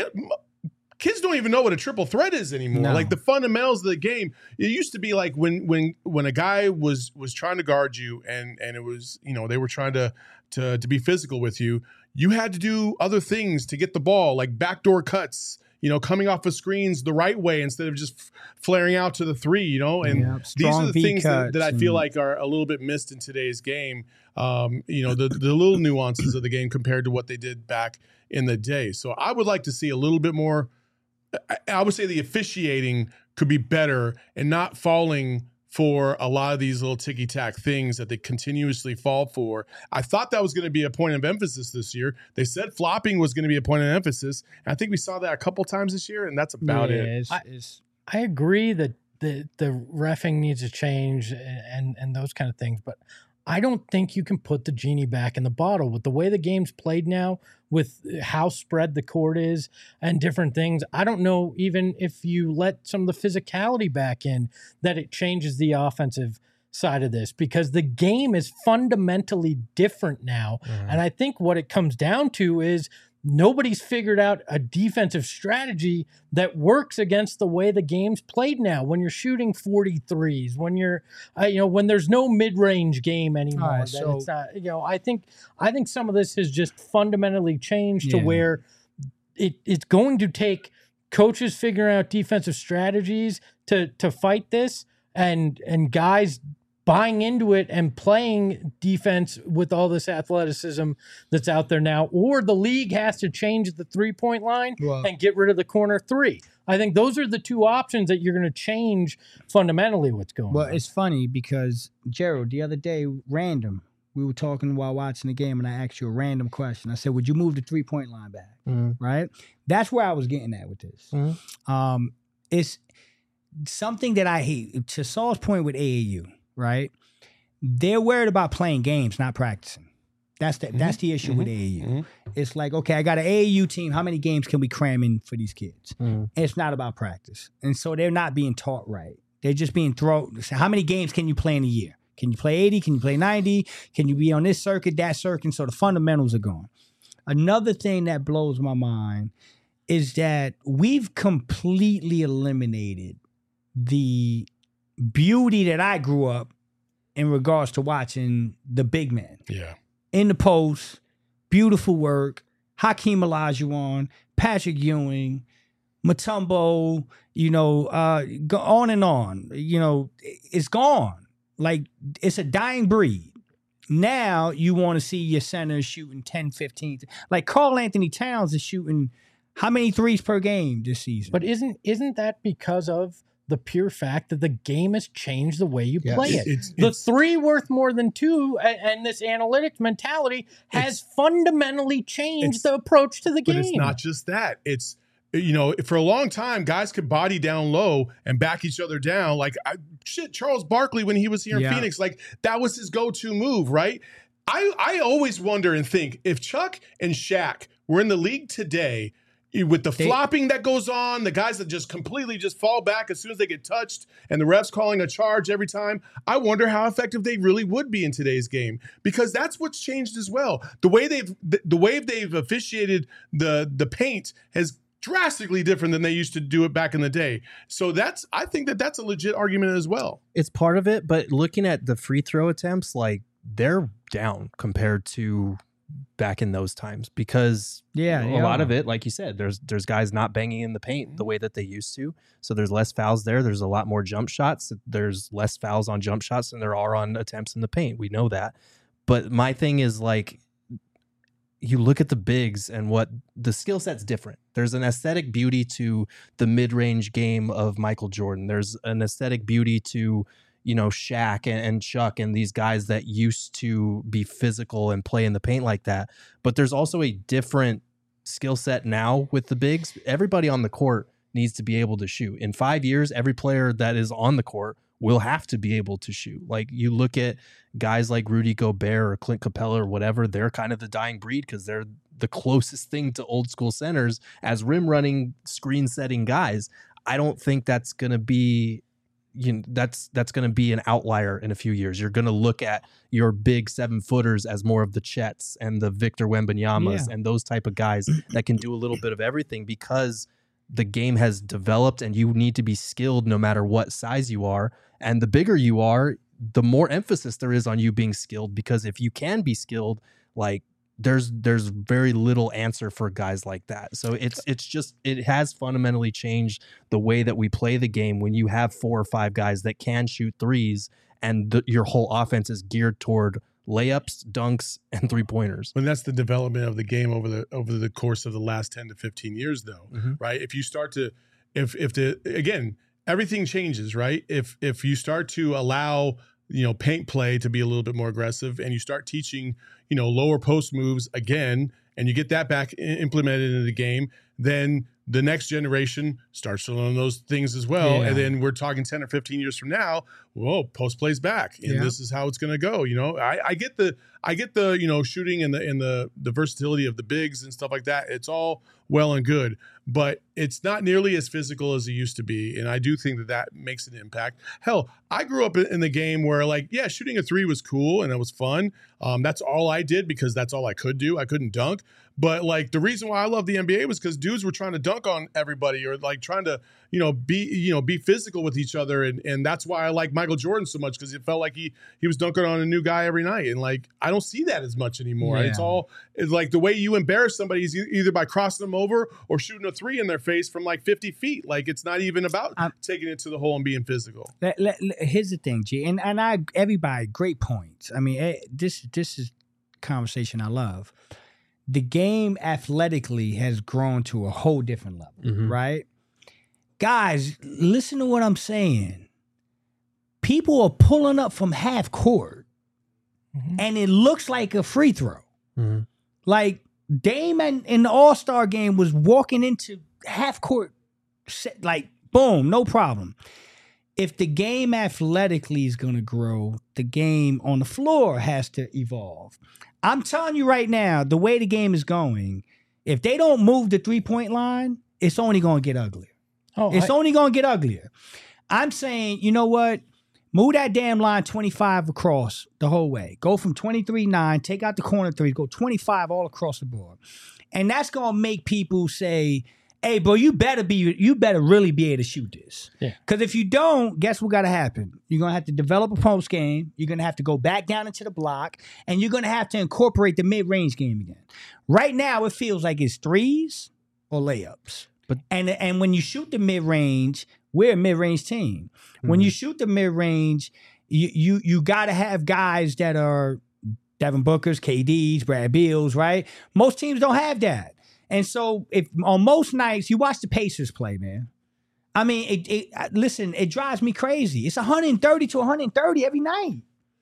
kids don't even know what a triple threat is anymore. No. Like the fundamentals of the game. It used to be like when when when a guy was was trying to guard you, and and it was, you know, they were trying to to to be physical with you. You had to do other things to get the ball, like backdoor cuts, you know, coming off of screens the right way instead of just f- flaring out to the three, you know. And Yeah, these are strong the V things that, that I cuts feel and- like are a little bit missed in today's game. Um, you know, the the little nuances of the game compared to what they did back in the day. So I would like to see a little bit more. I, I would say the officiating could be better and not falling for a lot of these little ticky-tack things that they continuously fall for. I thought that was going to be a point of emphasis this year. They said flopping was going to be a point of emphasis. And I think we saw that a couple times this year, and that's about Yeah, it. It's, I- it's, I agree that the the refing needs to change and and those kind of things, but I don't think you can put the genie back in the bottle with the way the game's played now, with how spread the court is and different things. I don't know even if you let some of the physicality back in, that it changes the offensive side of this, because the game is fundamentally different now. And I think what it comes down to is nobody's figured out a defensive strategy that works against the way the game's played now. When you're shooting forty-threes, when you're, uh, you know, when there's no mid-range game anymore, All right, that so- it's not, you know, I think, I think some of this has just fundamentally changed Yeah. to where it, it's going to take coaches figuring out defensive strategies to, to fight this, and, and guys buying into it and playing defense with all this athleticism that's out there now, or the league has to change the three-point line Well- and get rid of the corner three. I think those are the two options that you're going to change fundamentally what's going Well, on. it's funny because Gerald, the other day, random, we were talking while watching the game, and I asked you a random question. I said, "Would you move the three point line back?" Mhm. Right? That's where I was getting at with this. Mhm. Um, it's something that I hate. To Saul's point with A A U, right? They're worried about playing games, not practicing. That's the that's the issue with A A U. Mhm. It's like, okay, I got an A A U team. How many games can we cram in for these kids? Mhm. It's not about practice. And so they're not being taught right. They're just being thrown. How many games can you play in a year? Can you play eighty? Can you play ninety? Can you be on this circuit, that circuit? So the fundamentals are gone. Another thing that blows my mind is that we've completely eliminated the beauty that I grew up in regards to watching the big men Yeah. in the post, beautiful work, Hakeem Olajuwon, Patrick Ewing, Mutombo, you know, uh, go on and on. You know, it's gone. Like, it's a dying breed. Now you want to see your centers shooting ten, fifteen. Like Karl Anthony Towns is shooting how many threes per game this season? But isn't isn't that because of the pure fact that the game has changed the way you Yeah. play It- it? it's- the it's- three worth more than two, a- and this analytics mentality has fundamentally changed it's- the approach to the But game. it's not just that. It's, you know, for a long time, guys could body down low and back each other down. Like, I, shit, Charles Barkley, when he was here in Yeah. Phoenix, like, that was his go-to move, right? I, I always wonder and think, if Chuck and Shaq were in the league today, with the They- flopping that goes on, the guys that just completely just fall back as soon as they get touched, and the refs calling a charge every time, I wonder how effective they really would be in today's game, because that's what's changed as well. The way they've the, the way they've officiated the the paint has drastically different than they used to do it back in the day. So that's I think that that's a legit argument as well. It's part of it, but looking at the free throw attempts, like they're down compared to back in those times, because Yeah, a they lot are. of it, like you said, there's there's guys not banging in the paint the way that they used to. So there's less fouls there. There's a lot more jump shots. There's less fouls on jump shots than there are on attempts in the paint. We know that. But my thing is, like, you look at the bigs and what the skill set's different. There's an aesthetic beauty to the mid-range game of Michael Jordan. There's an aesthetic beauty to, you know, Shaq and, and Chuck and these guys that used to be physical and play in the paint like that. But there's also a different skill set now with the bigs. Everybody on the court needs to be able to shoot. In five years, every player that is on the court will have to be able to shoot. Like, you look at guys like Rudy Gobert or Clint Capella or whatever, they're kind of the dying breed because they're the closest thing to old school centers as rim running, screen setting guys. I don't think that's going to be, you know, that's that's going to be an outlier in a few years. You're going to look at your big seven footers as more of the Chets and the Victor Wembanyamas Yeah. and those type of guys that can do a little bit of everything, because the game has developed and you need to be skilled no matter what size you are. And the bigger you are, the more emphasis there is on you being skilled, because if you can be skilled, like, there's there's very little answer for guys like that. So it's it's just it has fundamentally changed the way that we play the game when you have four or five guys that can shoot threes, and the, your whole offense is geared toward layups, dunks, and three pointers. And that's the development of the game over the over the course of the last ten to fifteen years, though, Mhm. right? If you start to, if if the again, everything changes, right? If if you start to allow, you know, paint play to be a little bit more aggressive, and you start teaching, you know, lower post moves again, and you get that back i- implemented into the game, then the next generation starts to learn those things as well. Yeah. And then we're talking ten or fifteen years from now, whoa, post plays back. And Yeah. this is how it's gonna go. You know, I, I get the I get the, you know, shooting and the and the the versatility of the bigs and stuff like that. It's all well and good. But it's not nearly as physical as it used to be. And I do think that that makes an impact. Hell, I grew up in the game where, like, yeah, shooting a three was cool and it was fun. Um, that's all I did because that's all I could do. I couldn't dunk. But, like, the reason why I love the N B A was because dudes were trying to dunk on everybody or, like, trying to, you know, be, you know, be physical with each other. And and that's why I like Michael Jordan so much, because it felt like he he was dunking on a new guy every night. And, like, I don't see that as much anymore. Yeah. It's all, it's like the way you embarrass somebody is e- either by crossing them over or shooting a three in their face from, like, fifty feet. Like, it's not even about I'm, taking it to the hole and being physical. Let, let, let- here's the thing, G, and and I everybody great points. I mean, eh, this this is conversation I love. The game athletically has grown to a whole different level, Mhm. right? Guys, listen to what I'm saying. People are pulling up from half court, Mhm. and it looks like a free throw. Mhm. Like Dame in, in the All Star game was walking into half court, set, like boom, no problem. If the game athletically is going to grow, the game on the floor has to evolve. I'm telling you right now, the way the game is going, if they don't move the three point line, it's only going to get uglier. Oh, It's I- only going to get uglier. I'm saying, you know what? Move that damn line twenty-five across the whole way. Go from twenty-three nine, take out the corner threes, go twenty-five all across the board. And that's going to make people say, hey, bro, you better be, you better really be able to shoot this. Yeah. Because if you don't, guess what got to happen? You're going to have to develop a post game. You're going to have to go back down into the block, and you're going to have to incorporate the mid-range game again. Right now, it feels like it's threes or layups. But- and and when you shoot the mid-range, we're a mid-range team. When you shoot the mid-range, you you you got to have guys that are Devin Booker's, K D's, Brad Beal's, right? Most teams don't have that. And so if on most nights, you watch the Pacers play, man. I mean, it, it uh, listen, it drives me crazy. It's one thirty to one thirty every night.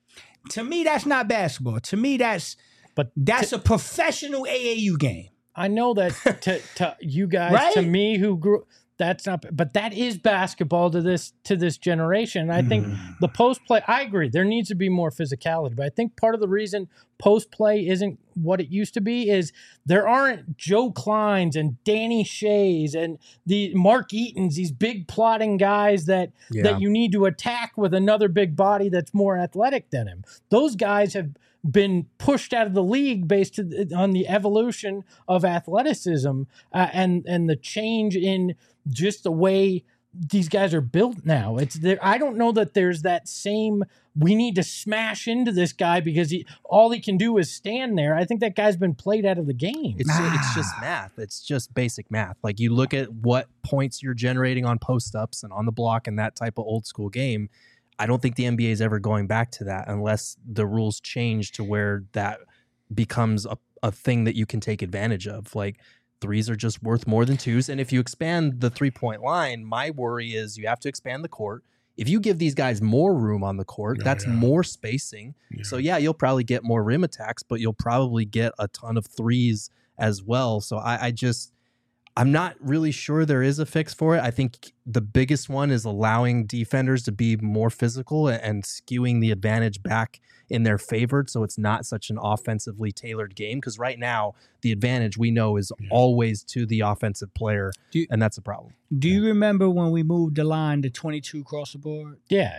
To me, that's not basketball. To me, that's But that's a professional A A U game. I know that to, to you guys, Right? to me who grew, that's not, but that is basketball to this to this generation. I think the post play, I agree, there needs to be more physicality, but I think part of the reason post play isn't what it used to be is there aren't Joe Kleins and Danny Shays and the Mark Eatons, these big plotting guys that Yeah. that you need to attack with another big body that's more athletic than him. Those guys have been pushed out of the league based on the evolution of athleticism uh, and and the change in just the way these guys are built now. It's there. I don't know that there's that same. We need to smash into this guy because he all he can do is stand there. I think that guy's been played out of the game. It's it's just math. It's just basic math. Like you look at what points you're generating on post ups and on the block and that type of old school game. I don't think the N B A is ever going back to that unless the rules change to where that becomes a, a thing that you can take advantage of. Like threes are just worth more than twos. And if you expand the three point line, my worry is you have to expand the court. If you give these guys more room on the court, Oh, that's yeah. more spacing. Yeah. So yeah, you'll probably get more rim attacks, but you'll probably get a ton of threes as well. So I, I just, I'm not really sure there is a fix for it. I think the biggest one is allowing defenders to be more physical and skewing the advantage back in their favor, so it's not such an offensively tailored game. Because right now, the advantage we know is Yeah. always to the offensive player, Do you- and that's a problem. Do you remember when we moved the line to twenty-two across the board? Yeah,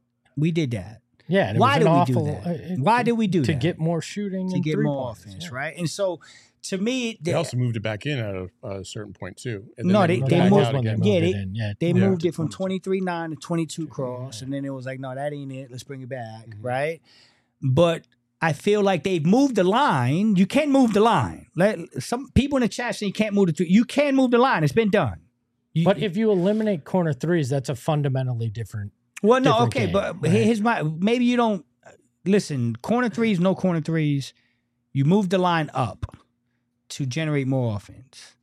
We did that. yeah. and it Why was did an we awful, do that? uh, it- Why did we do to that? get more shooting to and get three more points, offense, yeah. right? And so, to me, They the- also moved it back in at a, a certain point too. And No, then they- Well, they that moved- was when they again. moved Yeah, it they- in. Yeah, they Yeah. moved it from twenty-three nine to twenty-two cross, and then it was like, no, that ain't it. Let's bring it back, Mm-hmm. right? But I feel like they've moved the line. You can't move the line. Let some people in the chat say you can't move the three. You can move the line. It's been done. You- But if you eliminate corner threes, that's a fundamentally different. well, no, different okay, game, but right? here's my maybe you don't listen. Corner threes, no corner threes. You move the line up to generate more offense.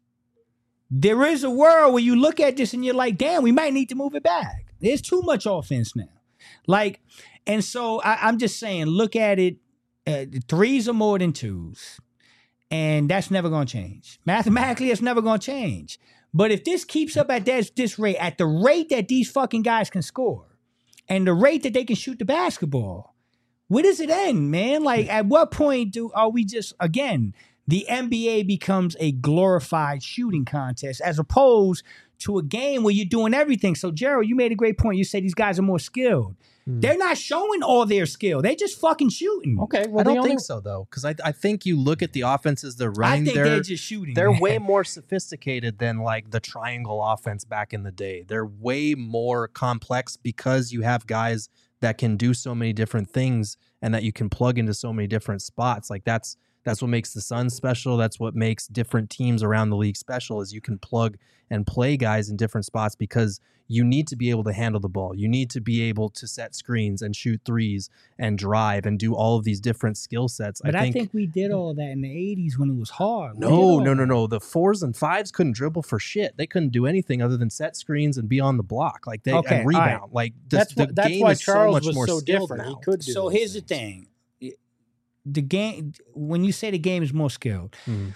There is a world where you look at this and you're like, damn, we might need to move it back. There's too much offense now. Like, and so I, I'm just saying, look at it. Uh, threes are more than twos. And that's never going to change. Mathematically, it's never going to change. But if this keeps up at this, this rate, at the rate that these fucking guys can score, and the rate that they can shoot the basketball, where does it end, man? Like, at what point do are we just, again, the N B A becomes a glorified shooting contest as opposed to a game where you're doing everything. So, Gerald, you made a great point. You said these guys are more skilled. Hmm. They're not showing all their skill. They just fucking shooting. Okay, well, I the don't only, think so though, because I I think you look at the offenses they're I running. think they're they're just shooting. they're man. way more sophisticated than like the triangle offense back in the day. They're way more complex because you have guys that can do so many different things and that you can plug into so many different spots. Like that's that's what makes the Suns special. That's what makes different teams around the league special is you can plug and play guys in different spots because you need to be able to handle the ball. You need to be able to set screens and shoot threes and drive and do all of these different skill sets. But I I think, think we did all that in the eighties when it was hard. We did no, all no, no, that. no. The fours and fives couldn't dribble for shit. They couldn't do anything other than set screens and be on the block, like they Okay, and all right. rebound. Like the, that's the what, that's game why is Charles so much was more so skilled different. now. He could do So those here's the things. thing. The game, when you say the game is more skilled, Mhm.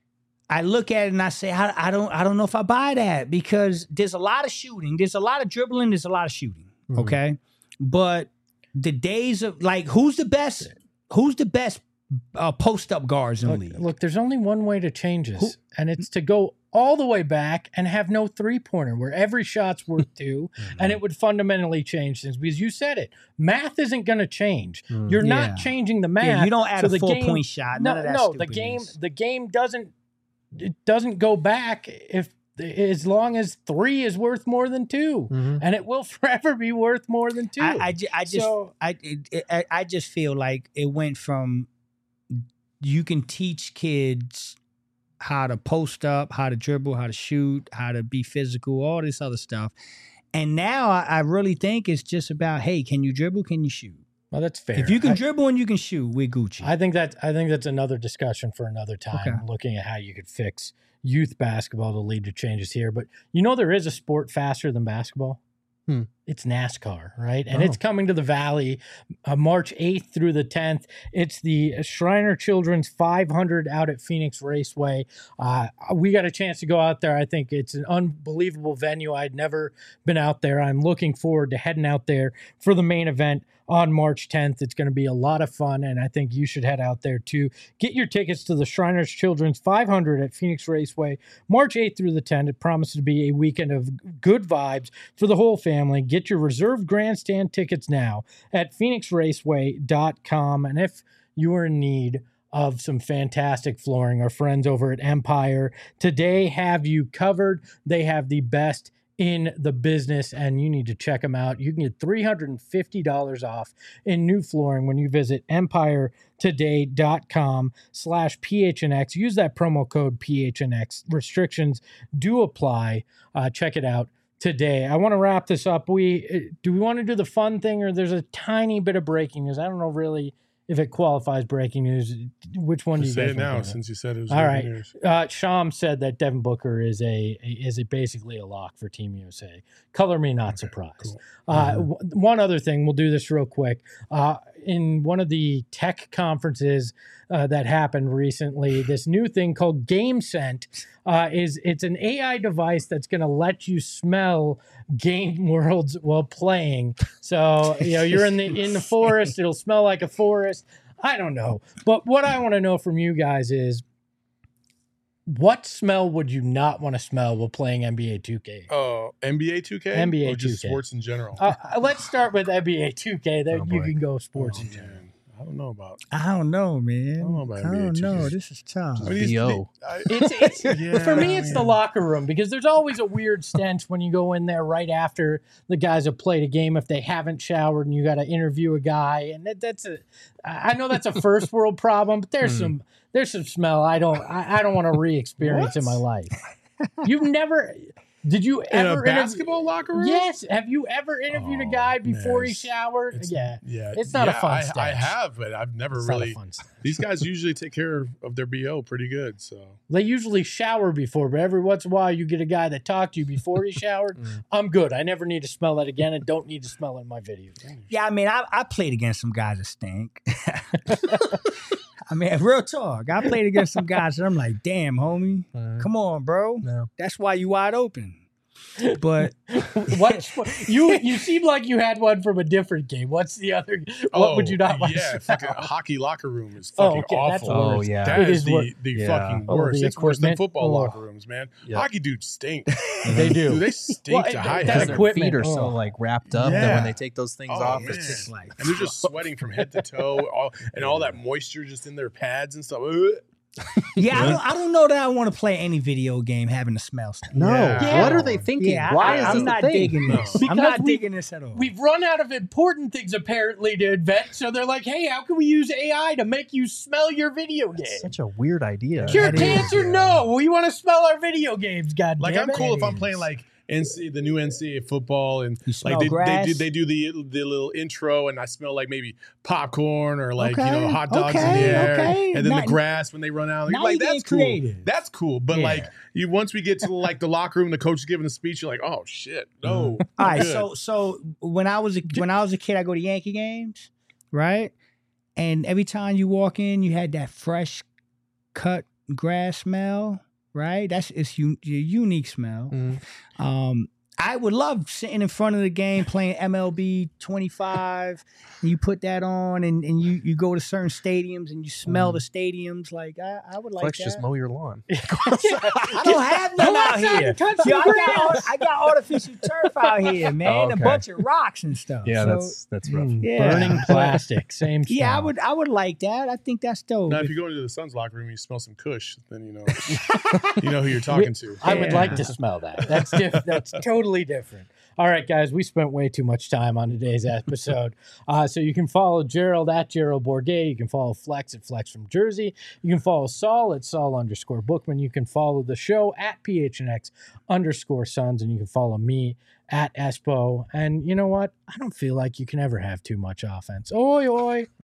I look at it and I say, I, I don't, I don't know if I buy that because there's a lot of shooting, there's a lot of dribbling, there's a lot of shooting. Mhm. Okay, but the days of like, who's the best? Who's the best uh, post up guards in the Look, league? look, there's only one way to change this, Who- and it's to go all the way back and have no three pointer where every shot's worth two, and it would fundamentally change things because you said it. Math isn't going to change. Mm. You're Yeah. not changing the math. Yeah, you don't add so a the four game- point shot. No, None of that no, the game, stupidness. the game doesn't, it doesn't go back if as long as three is worth more than two, Mhm. and it will forever be worth more than two. I, I, ju- I just, So- I, it, I, I just feel like it went from you can teach kids how to post up, how to dribble, how to shoot, how to be physical, all this other stuff. And now I, I really think it's just about, hey, can you dribble? Can you shoot? Well, that's fair. If you can I- dribble and you can shoot, we're Gucci. I think that I think that's another discussion for another time. Okay. Looking at how you could fix youth basketball to lead to changes here, but you know there is a sport faster than basketball. Hmm. It's NASCAR, right? And Oh. it's coming to the Valley, uh, March eighth through the tenth. It's the Shriner Children's five hundred out at Phoenix Raceway. Uh, we got a chance to go out there. I think it's an unbelievable venue. I'd never been out there. I'm looking forward to heading out there for the main event on March tenth. It's going to be a lot of fun, and I think you should head out there too. Get your tickets to the Shriners Children's five hundred at Phoenix Raceway, March eighth through the tenth. It promises to be a weekend of good vibes for the whole family. Get your reserved grandstand tickets now at phoenix raceway dot com. And if you are in need of some fantastic flooring, our friends over at Empire today have you covered. They have the best in the business, and you need to check them out. You can get three hundred fifty dollars off in new flooring when you visit empire today dot com slash P H N X. Use that promo code P H N X. Restrictions do apply. Uh, check it out today. I want to wrap this up. We do we want to do the fun thing, or there's a tiny bit of breaking news? I don't know really if it qualifies breaking news. Which one do you Say guys it wanna now go with? since you said it was All good right. news. Uh, Sham said that Devin Booker is a is a basically a lock for Team U S A. Color me not Okay, surprised. cool. Uh, w- one other thing, we'll do this real quick. Uh, in one of the tech conferences uh, that happened recently, this new thing called GameScent uh, is it's an A I device that's going to let you smell game worlds while playing. So you know you're in the in the forest, it'll smell like a forest. I don't know, but what I want to know from you guys is, what smell would you not want to smell while playing N B A two K? Oh, N B A two K? N B A or just two K. sports in general? Uh, let's start with N B A two K. Then Oh, you boy. can go sports Oh, in general. man. I don't know about. I don't know, man. I don't know about I N B A don't two K. know. This is tough. I mean, these- B O. I- It's, it's Yeah, for me, it's the man. locker room because there's always a weird stench when you go in there right after the guys have played a game if they haven't showered and you got to interview a guy, and that, that's a. I know that's a first world problem, but there's Mm. some there's some smell I don't I, I don't want to re-experience in my life. You've never. Did you in ever a interview- basketball locker room? Yes. Have you ever interviewed a Oh, guy before man, he it's- showered? It's- Yeah. yeah. It's not a yeah, fun I, I stench. have, but I've never It's not a really. fun stench. These guys usually take care of their B O pretty good. So They usually shower before, but every once in a while you get a guy that talked to you before he showered. Mm. I'm good. I never need to smell that again and don't need to smell it in my videos. Yeah, I mean, I, I played against some guys that stink. I mean, real talk. I played against some guys that I'm like, damn, homie, Uh, come on, bro. no. That's why you wide open. But what you you seem like you had one from a different game. What's the other? What would you not want? Yeah, to fucking smell? hockey locker room is Oh, fucking okay, that's awful. worse. Oh, yeah. That It is is the, wor- the Yeah. fucking Oh, worst. the It's worse than equipment? football Oh. locker rooms, man. Yeah. Hockey dudes stink. They do. Dude, they stink Well, to it- high that's Because heaven. their equipment. feet are so Oh. like wrapped up that Yeah. when they take those things Oh, off, man. it's just like And they're just sweating from head to toe, all, and all that moisture just in their pads and stuff. Ugh. yeah, I don't, I don't know that I want to play any video game having to smell stuff. no. Yeah. What are they thinking? Yeah, Why I, is I'm this not a thing? digging No. this. Because I'm not we- digging this at all. We've run out of important things apparently to invent, so they're like, "Hey, how can we use A I to make you smell your video game?" It's such a weird idea. Cure That is, cancer? yeah. No, we want to smell our video games. God Like damn I'm it. cool if I'm is. playing like N C the new N C A A football and You smell like they, they grass? do they do the the little intro and I smell like maybe popcorn or like you Okay, know hot dogs in okay, the air okay. and then Now- the grass when they run out. now Like you're that's getting cool. creative. That's cool. But Yeah. like you once we get to like the locker room, the coach is giving a speech. You're like, oh shit, no. All I'm right, good. so so when I was a, when I was a kid, I go to Yankee games, right? And every time you walk in, you had that fresh cut grass smell, right? That's it's un, a unique smell. Mhm. Um, I would love sitting in front of the game playing M L B twenty-five, and you put that on, and, and you, you go to certain stadiums and you smell Mm. the stadiums. Like I, I would like Flex that. just mow your lawn. I don't have none Go out outside here. and touch See, the I got, grass. art- I got artificial turf out here, man. Oh, A okay. bunch of rocks and stuff. Yeah, So, that's that's rough. Mm, Yeah. Burning plastic, same. yeah, I smell. would I would like that. I think that's dope. Now, if you go into the Suns locker room and you smell some Kush, then you know you know who you're talking to. I would Yeah. like to smell that. That's diff- That's totally different. All right, guys, we spent way too much time on today's episode. Uh, so you can follow Gerald at Gerald Bourget. You can follow Flex at Flex from Jersey. You can follow Saul at Saul underscore Bookman. You can follow the show at P H N X underscore Sons. And you can follow me at Espo. And you know what? I don't feel like you can ever have too much offense. Oi, oi.